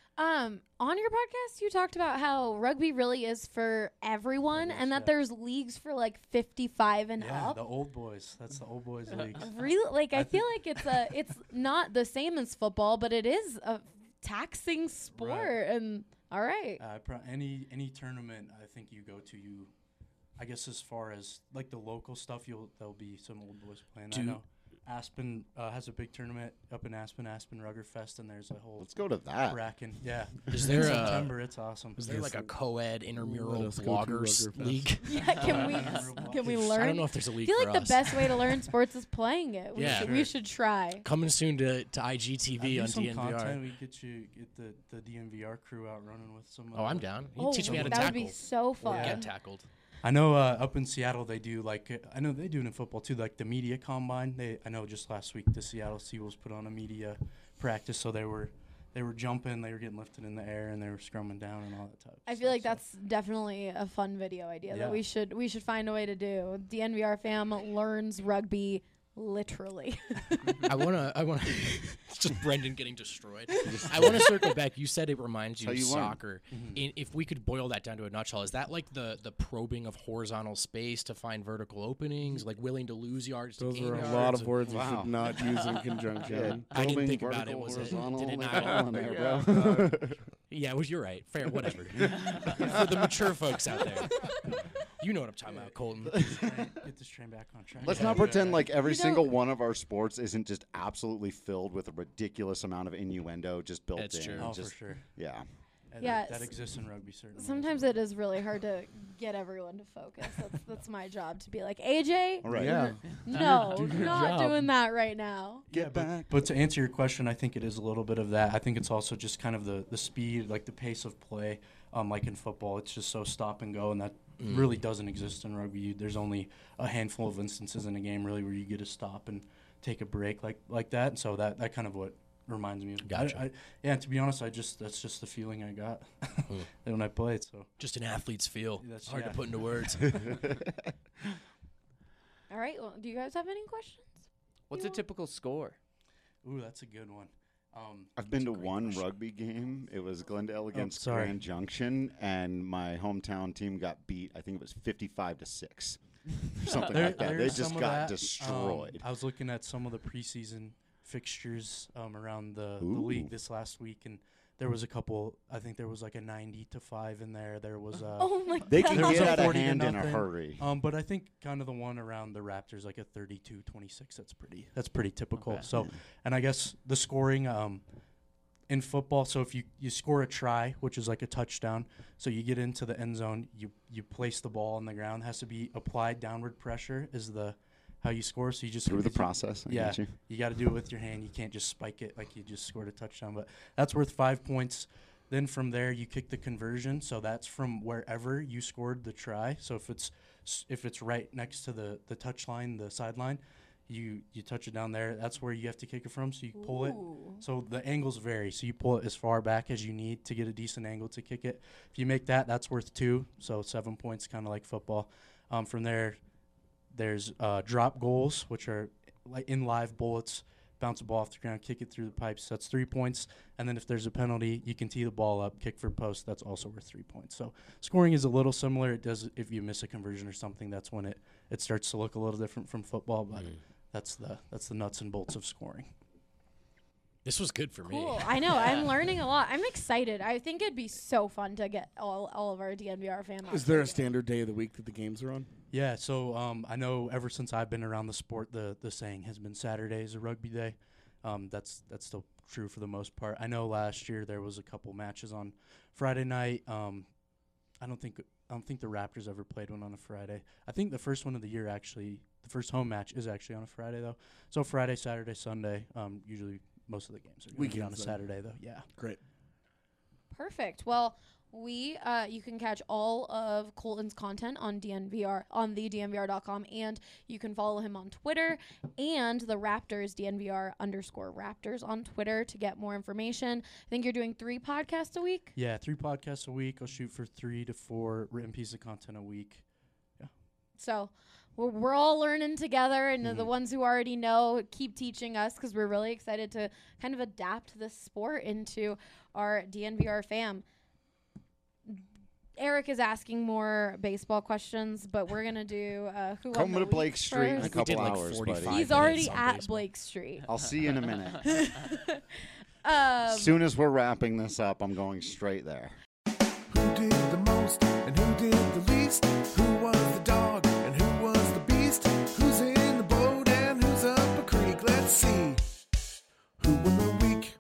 Um, on your podcast, you talked about how rugby really is for everyone, It is, and that yeah. there's leagues for like fifty-five and Yeah, up. the old boys. That's the old boys league. Really, like I, I feel like it's a, it's not the same as football, but it is a taxing sport. Right. And all right, Uh, pro- any any tournament I think you go to, you, I guess as far as like the local stuff, you'll there'll be some old boys playing. I Do- know Aspen uh, has a big tournament up in Aspen, Aspen Rugger Fest, and there's a whole Let's go to that. Kraken. Yeah, Is in there a- September? It's awesome. is there like a co-ed intramural Let us go to bloggers Rugger Fest. league? yeah. Can we can we learn? I don't know if there's a I league feel for like the us. best way to learn sports is playing it. We, Yeah. should, we should try. Coming soon to, to I G T I'd V do on some D N V R. content. We get you get the, the D N V R crew out running with some. Oh, uh, I'm down. You Oh, teach me how to that tackle would be so or fun. get tackled. I know uh, up in Seattle they do like uh, I know they do it in football too, like the media combine. They I know just last week the Seattle Seawolves put on a media practice, so they were they were jumping, they were getting lifted in the air, and they were scrumming down and all that type. of I stuff, feel like so. that's definitely a fun video idea Yeah. that we should we should find a way to do. D N V R fam learns rugby literally. I wanna, I wanna. It's just Brendan getting destroyed. I want to circle back. You said it reminds you How of you learn. soccer. In, if we could boil that down to a nutshell, is that like the the probing of horizontal space to find vertical openings, like willing to lose yards to Those gain are a yards? lot of or- words you Wow. should not use in conjunction. I didn't Probing, think about it. vertical, Was it? horizontal, Did it they not? got all in there, Yeah. bro. Yeah, well, you're right. Fair, whatever. For the mature folks out there, you know what I'm talking about, Colton. Get this train back on track. Let's Yeah. not pretend like every You know- single one of our sports isn't just absolutely filled with a ridiculous amount of innuendo just built That's in. true. Oh, just, for sure. Yeah. And Yeah, that, that s- exists in rugby certainly. Sometimes it is really hard to get everyone to focus. That's that's my job to be like, A J, All right. Yeah. no, Do your not job. doing that right now. Get back. But to answer your question, I think it is a little bit of that. I think it's also just kind of the, the speed, like the pace of play. Um, like in football, it's just so stop and go, and that really doesn't exist in rugby. You, there's only a handful of instances in a game really where you get to stop and take a break like like that. So that that kind of what reminds me of. Gotcha. I, I, yeah, to be honest, I just that's just the feeling I got when I played. So Just an athlete's feel. That's- Hard yeah. to put into words. All right. Well, do you guys have any questions? What's You a want- typical score? ooh, that's a good one. Um, I've been that's to a great one question. rugby game. It was Glendale against sorry. Grand Junction, and my hometown team got beat. I think it was fifty-five to six, or something There- like that. They there's just some of got that. destroyed. Um, I was looking at some of the preseason fixtures um, around the, the Ooh. league this last week, and there was a couple. I think there was like a ninety to five in there. There was a. Oh my They god. can There was get a out of forty to hand in a nothing. hurry. Um, but I think kind of the one around the Raptors, like a thirty-two twenty-six. That's pretty. That's pretty typical. Okay. So, and I guess the scoring um, in football. So if you, you score a try, which is like a touchdown, so you get into the end zone, you you place the ball on the ground. Has to be applied downward pressure is the how you score. So you just Through the because you- process. I yeah, get you. you got to do it with your hand. You can't just spike it like you just scored a touchdown. But that's worth five points. Then from there, you kick the conversion. So that's from wherever you scored the try. So if it's if it's right next to the the touch line, the sideline, you you touch it down there. That's where you have to kick it from. So you pull Ooh. it. So the angles vary. So you pull it as far back as you need to get a decent angle to kick it. If you make that, that's worth two. So seven points, kind of like football. Um, from there, there's uh, drop goals, which are like in live bullets. Bounce the ball off the ground, kick it through the pipes. That's three points. And then if there's a penalty, you can tee the ball up, kick for post. That's also worth three points. So scoring is a little similar. It does if you miss a conversion or something. That's when it, it starts to look a little different from football. But Mm. that's the that's the nuts and bolts of scoring. This was good for me. Cool. I know. I'm learning a lot. I'm excited. I think it'd be so fun to get all, all of our D N V R fans. Is there a standard day of the week that the games are on? Yeah, so um, I know ever since I've been around the sport, the the saying has been Saturday is a rugby day. Um, that's that's still true for the most part. I know last year there was a couple matches on Friday night. Um, I don't think I don't think the Raptors ever played one on a Friday. I think the first one of the year actually, the first home match is actually on a Friday though. So Friday, Saturday, Sunday. Um, usually most of the games are going to be on a Weekends, then. Saturday though. Yeah. Great. Perfect. Well, we uh, you can catch all of Colton's content on D N V R on the D N V R dot com, and you can follow him on Twitter and the Raptors D N V R underscore Raptors on Twitter to get more information. I think you're doing three podcasts a week. Yeah, three podcasts a week. I'll shoot for three to four written pieces of content a week. So we're, we're all learning together, and Mm-hmm. the ones who already know keep teaching us because we're really excited to kind of adapt this sport into our D N V R fam. Eric is asking more baseball questions, but we're gonna do uh, who Come won the to Blake week Street in a first. we did couple like hours, forty-five buddy. He's minutes already on at baseball. Blake Street. I'll see you in a minute. Um, As soon as we're wrapping this up, I'm going straight there. Who did the most and who did the least? Who was the dog and who was the beast? Who's in the boat and who's up a creek? Let's see. Who won the week?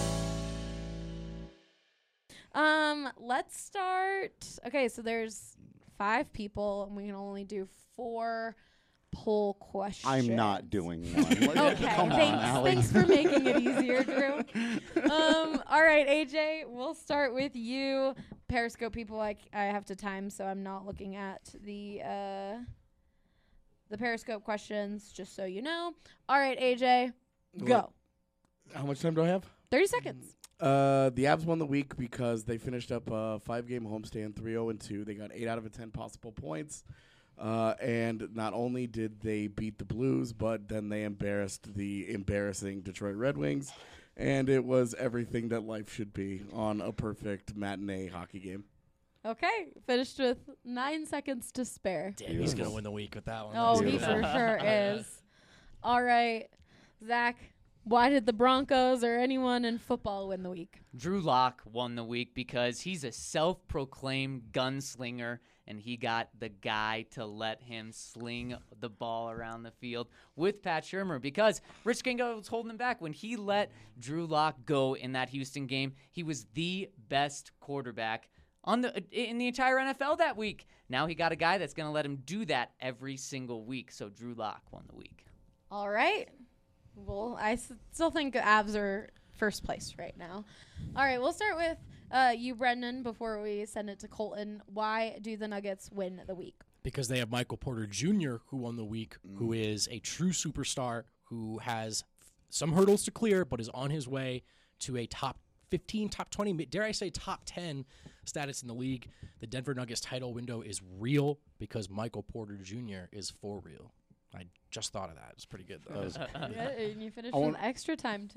Um, let's start. Okay, so there's five people, and we can only do four poll questions. I'm not doing one. Okay, Come on, thanks. Allie. Thanks for making it easier, Drew. Um, all right, A J, we'll start with you. Periscope people, I, I have to time, so I'm not looking at the uh, the Periscope questions, just so you know. All right, A J, go. How much time do I have? thirty seconds. Uh, the Avs won the week because they finished up a five-game homestand, three oh and two. They got eight out of ten possible points. Uh, and not only did they beat the Blues, but then they embarrassed the embarrassing Detroit Red Wings. And it was everything that life should be on a perfect matinee hockey game. Okay, finished with nine seconds to spare. Damn, he's gonna win the week with that one. Oh, he Beautiful. for sure is. All right, Zach, why did the Broncos or anyone in football win the week? Drew Lock won the week because he's a self-proclaimed gunslinger, and he got the guy to let him sling the ball around the field with Pat Shurmur because Rich Gango was holding him back. When he let Drew Lock go in that Houston game, he was the best quarterback on the in the entire N F L that week. Now he got a guy that's going to let him do that every single week, so Drew Lock won the week. All right. Well, I s- still think the Avs are first place right now. All right, we'll start with uh, you, Brendan, before we send it to Colton. Why do the Nuggets win the week? Because they have Michael Porter Junior, who won the week, who is a true superstar, who has f- some hurdles to clear, but is on his way to a top fifteen, top twenty, dare I say top ten status in the league. The Denver Nuggets title window is real because Michael Porter Junior is for real. I just thought of that. It's pretty good, though. Yeah, and you finished I with want- extra time, too.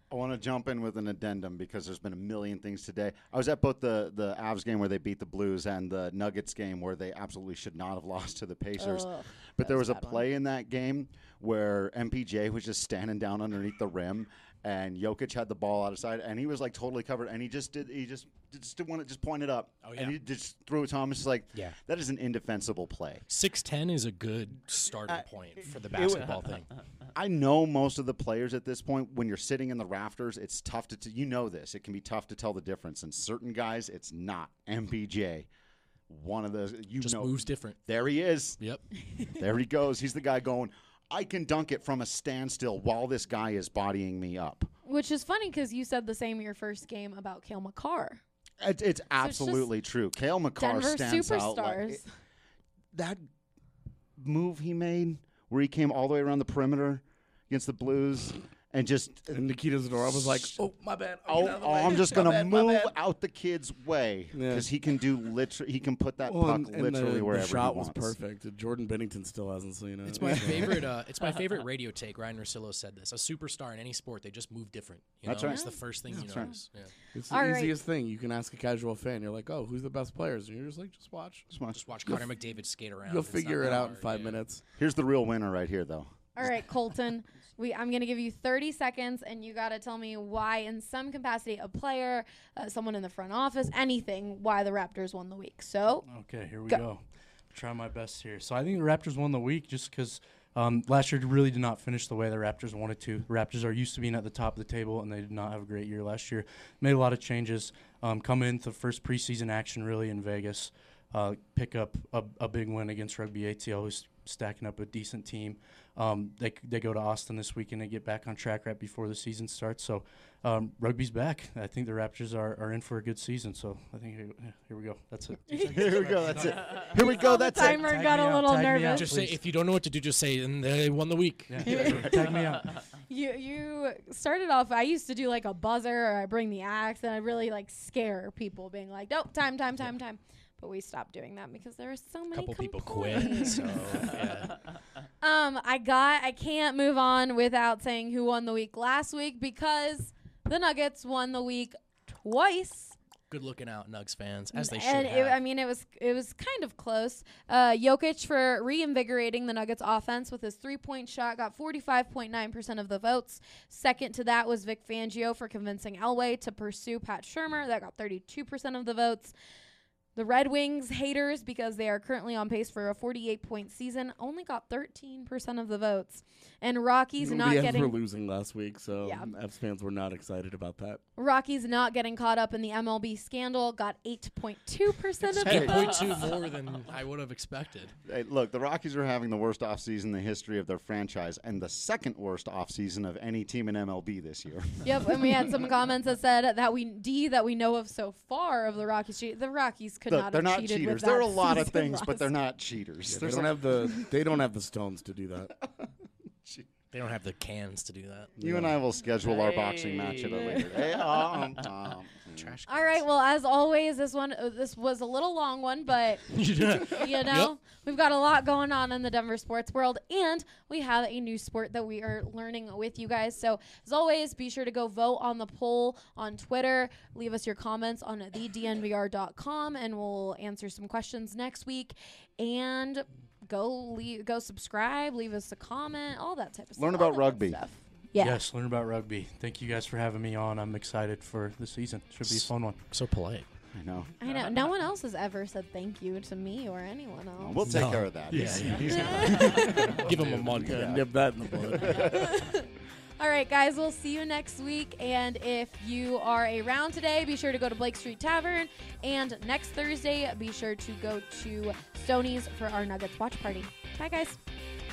I want to jump in with an addendum because there's been a million things today. I was at both the, the Avs game where they beat the Blues and the Nuggets game where they absolutely should not have lost to the Pacers. Ugh, but there was was a a bad play in that game where M P J was just standing down underneath the rim, and Jokic had the ball out of sight, and he was like totally covered, and he just did he just just did want to just point it up, Oh, yeah. and he just threw it to him. It's just like Yeah. that is an indefensible play. six ten is a good starting point for the basketball thing. I know most of the players at this point, when you're sitting in the rafters, it's tough to, t- you know this, it can be tough to tell the difference. And certain guys, it's not. M P J, one of those, you Just know. moves different. There he is. Yep. There he goes. He's the guy going, I can dunk it from a standstill while this guy is bodying me up. Which is funny because you said the same your first game about Cale Makar. It, it's absolutely true. Cale Makar Denver stands out. Like, superstars. it- that move he made where he came all the way around the perimeter against the Blues and just And Nikita Zadorov was like, "Oh, my bad. I'll Oh, get out of the oh, way. I'm just My gonna bad, my move bad." out the kid's way Yeah. because he can do literally. He can put that Well, puck and- and literally the, wherever the shot he was wants. perfect. Jordan Bennington still hasn't seen it. It's my favorite. Uh, it's my favorite radio take. Ryan Russillo said this: a superstar in any sport, they just move different. You That's know? right. It's the first thing you That's right. notice. Yeah. It's the All right. easiest thing. You can ask a casual fan. You're like, "Oh, who's the best players?" And you're just like, "Just watch. Just watch. Just watch Connor McDavid skate around. You'll It's figure not it that out in hard, five yeah. minutes." Here's the real winner right here, though. All right, Colton. We I'm gonna give you thirty seconds, and you gotta tell me why, in some capacity, a player, uh, someone in the front office, anything, why the Raptors won the week. So Okay, here we Go. go. Try my best here. So I think the Raptors won the week just because um, last year really did not finish the way the Raptors wanted to. The Raptors are used to being at the top of the table, and they did not have a great year last year. Made a lot of changes. Um, coming into the first preseason action really in Vegas, uh, pick up a, a big win against Rugby A T L, who's stacking up a decent team. Um, they they go to Austin this week and they get back on track right before the season starts. So um, rugby's back. I think the Raptors are, are in for a good season. So I think here, here we go. That's it. Here we go. That's it. Here we go. Oh, the That's it. timer Tag got me a out, little tag me out. nervous. Just say Please. if you don't know what to do, just say and they won the week. Yeah. Tag me out. You you started off. I used to do like a buzzer, or I bring the axe, and I really like scare people, being like, "Nope, time, time, time, time." But we stopped doing that because there are so A many couple people complaints. quit. So yeah. Um, I got. I can't move on without saying who won the week last week because the Nuggets won the week twice. Good looking out, Nugs fans, as they should And have. it, I mean, it was it was kind of close. Uh, Jokic for reinvigorating the Nuggets offense with his three point shot got forty-five point nine percent of the votes. Second to that was Vic Fangio for convincing Elway to pursue Pat Shurmur. That got thirty-two percent of the votes. The Red Wings haters, because they are currently on pace for a forty-eight point season, only got thirteen percent of the votes. And Rockies not the Avs getting were losing last week, so Yeah. Avs fans were not excited about that. Rockies not getting caught up in the M L B scandal got eight point two percent of the eight point votes. two more than I would have expected. Hey, look, the Rockies are having the worst offseason in the history of their franchise and the second worst offseason of any team in M L B this year. Yep, and we had some comments that said that we D that we know of so far of the Rockies. cheat- The Rockies could Look, not they're have not cheated cheaters. with There are that a lot of season things, but last they're not cheaters. They There's don't a- have the they don't have the stones to do that. They don't have the cans to do that. You and I will schedule our boxing match at a Hey. later date. Um, um, Trash. All right. Well, as always, this one uh, this was a little long one, but you know we've got a lot going on in the Denver sports world, and we have a new sport that we are learning with you guys. So as always, be sure to go vote on the poll on Twitter. Leave us your comments on the d n v r dot com, and we'll answer some questions next week. And go leave, go subscribe, leave us a comment, all that type of stuff. Learn all about that good rugby. stuff. Yeah. Yes, learn about rugby. Thank you guys for having me on. I'm excited for the season. Should be a fun one. So polite. I know. I know. No one else has ever said thank you to me or anyone else. We'll take No. care of that. Yeah, He's- yeah. he's- Give him a month. Yeah, nip that in the bud. All right, guys, we'll see you next week. And if you are around today, be sure to go to Blake Street Tavern. And next Thursday, be sure to go to Stoney's for our Nuggets watch party. Bye, guys.